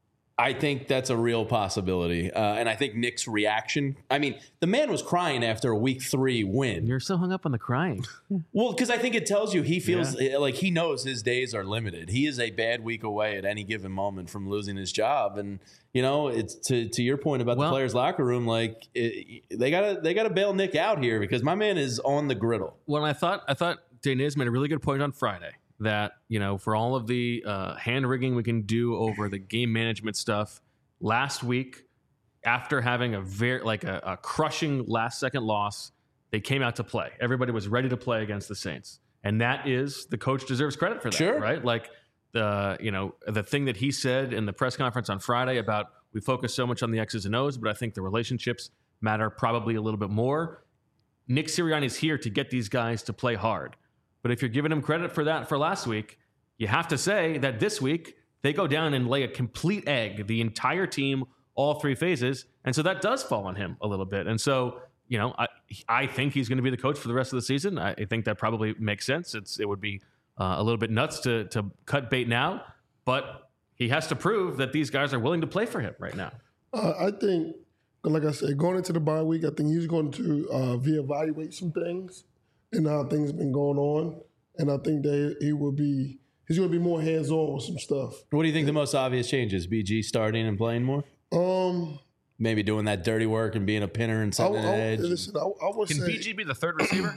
I think that's a real possibility. Uh, and I think Nick's reaction, I mean, the man was crying after a week three win. You're so hung up on the crying. Well, because I think it tells you he feels like he knows his days are limited. He is a bad week away at any given moment from losing his job. And, you know, it's to, to your point about Well- the players' locker room, like it, they gotta they gotta bail Nick out here because my man is on the griddle. Well, I thought I thought Daniz made a really good point on Friday that you know for all of the uh, hand rigging we can do over the game management stuff last week, after having a very like a, a crushing last second loss, they came out to play. Everybody was ready to play against the Saints, and that is the coach deserves credit for that, Sure. right? Like the you know the thing that he said in the press conference on Friday about we focus so much on the X's and O's, but I think the relationships matter probably a little bit more. Nick Sirianni's here to get these guys to play hard. But if you're giving him credit for that for last week, you have to say that this week they go down and lay a complete egg, the entire team, all three phases. And so that does fall on him a little bit. And so, you know, I, I think he's going to be the coach for the rest of the season. I, I think that probably makes sense. It's It would be uh, a little bit nuts to, to cut bait now, but he has to prove that these guys are willing to play for him right now. Uh, I think, like I said, going into the bye week, I think he's going to uh, reevaluate some things and how things have been going on. And I think that he will be he's going to be more hands-on with some stuff. What do you think the most obvious change is? B G starting and playing more? Um, Maybe doing that dirty work and being a pinner and setting I- an I- edge. listen, I, I would Can say, B G be the third receiver?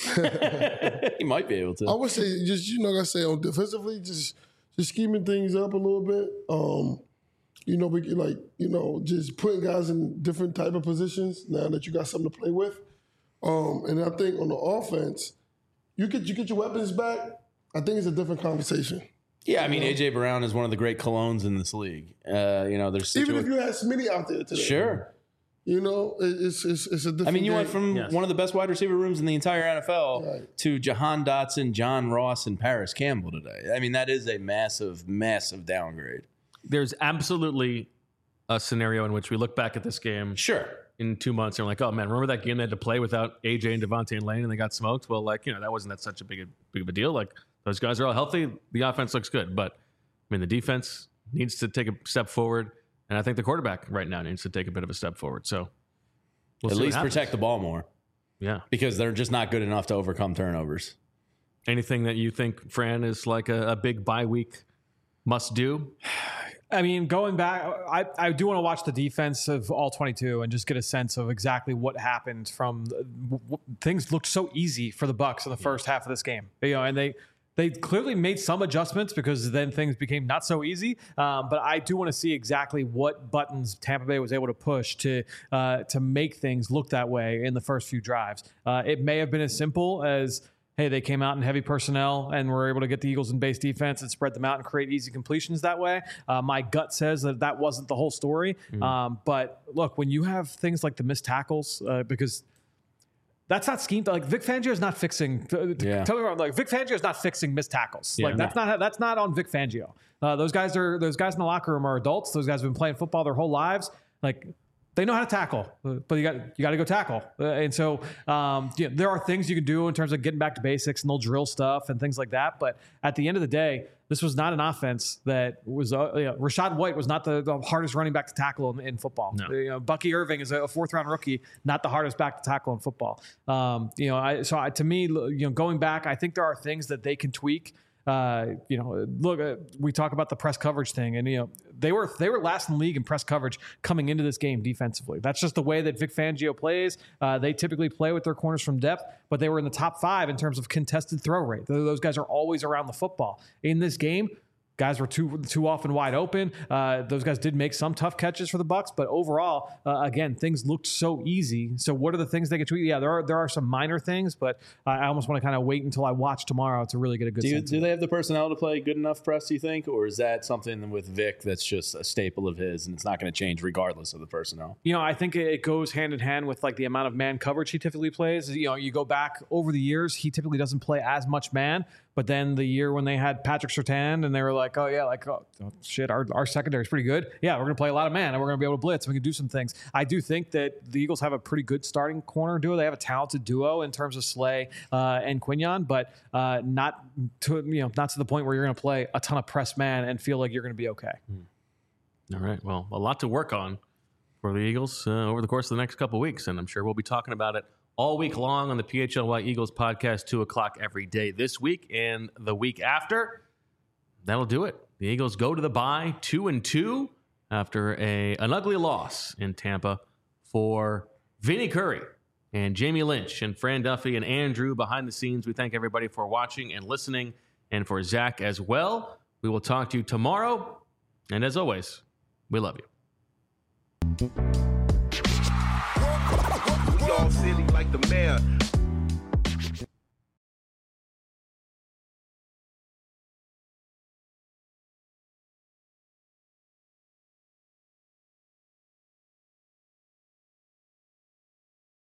He might be able to. I would say just you know, like I say on defensively, just just scheming things up a little bit. Um, you know, we can, like you know, just putting guys in different type of positions now that you got something to play with. Um, and I think on the offense, you get you get your weapons back. I think it's a different conversation. Yeah, I mean, A J Brown is one of the great colognes in this league. Uh, you know, there's Even situa- if you had Smitty out there today, Sure. you know, it- it's it's, it's a different. I mean, you game. went from Yes. one of the best wide receiver rooms in the entire N F L Right. to Jahan Dotson, John Ross, and Paris Campbell today. I mean, that is a massive, massive downgrade. There's absolutely a scenario in which we look back at this game Sure. in two months and we're like, oh man, remember that game they had to play without A J and Devontae and Lane and they got smoked? Well, like, you know, that wasn't that such a big, big of a deal. Like, those guys are all healthy. The offense looks good. But, I mean, the defense needs to take a step forward. And I think the quarterback right now needs to take a bit of a step forward. So we'll at see least what happens. protect the ball more. Yeah. Because they're just not good enough to overcome turnovers. Anything that you think, Fran, is like a, a big bye week must do? I mean, going back, I, I do want to watch the defense of all twenty-two and just get a sense of exactly what happened from w- w- things looked so easy for the Bucs in the first half of this game, you know, and they, they clearly made some adjustments because then things became not so easy. Um, but I do want to see exactly what buttons Tampa Bay was able to push to, uh, to make things look that way in the first few drives. Uh, it may have been as simple as, hey, they came out in heavy personnel and were able to get the Eagles in base defense and spread them out and create easy completions that way. Uh, my gut says that that wasn't the whole story. Mm. Um, but look, when you have things like the missed tackles, uh, because that's not scheme. Like Vic Fangio is not fixing. Yeah. Tell me wrong. Like Vic Fangio is not fixing missed tackles. Yeah, like that's no. not that's not on Vic Fangio. Uh, those guys are those guys in the locker room are adults. Those guys have been playing football their whole lives. Like. They know how to tackle, but you got you got to go tackle. Uh, and so um, you know, there are things you can do in terms of getting back to basics, and they'll drill stuff and things like that. But at the end of the day, this was not an offense that was. Uh, you know, Rachaad White was not the, the hardest running back to tackle in, in football. No. You know, Bucky Irving is a fourth round rookie, not the hardest back to tackle in football. Um, you know, I, so I, to me, you know, going back, I think there are things that they can tweak. Uh, you know, look, uh, we talk about the press coverage thing, and you know they were they were last in the league in press coverage coming into this game defensively. That's just the way that Vic Fangio plays. Uh, they typically play with their corners from depth, but they were in the top five in terms of contested throw rate. Those guys are always around the football. In this game, guys were too too often wide open. Uh, those guys did make some tough catches for the Bucs, but overall, uh, again, things looked so easy. So, what are the things they can tweak? Yeah, there are there are some minor things, but I almost want to kind of wait until I watch tomorrow to really get a good. Do, you, sense do they have the personnel to play good enough press? Do you think, or is that something with Vic that's just a staple of his, and it's not going to change regardless of the personnel? You know, I think it goes hand in hand with like the amount of man coverage he typically plays. You know, you go back over the years, he typically doesn't play as much man. But then the year when they had Patrick Surtain and they were like, oh, yeah, like, oh, shit, our, our secondary is pretty good. Yeah, we're going to play a lot of man and we're going to be able to blitz. We can do some things. I do think that the Eagles have a pretty good starting corner duo. They have a talented duo in terms of Slay uh, and Quinyon, but uh, not to you know not to the point where you're going to play a ton of press man and feel like you're going to be okay. All right. Well, a lot to work on for the Eagles uh, over the course of the next couple of weeks, and I'm sure we'll be talking about it all week long on the P H L Y Eagles podcast, two o'clock every day this week and the week after. That'll do it. The Eagles go to the bye two and two after a an ugly loss in Tampa. For Vinny Curry and Jamie Lynch and Fran Duffy and Andrew behind the scenes, we thank everybody for watching and listening, and for Zach as well. We will talk to you tomorrow, and as always, we love you. We all silly like the mayor.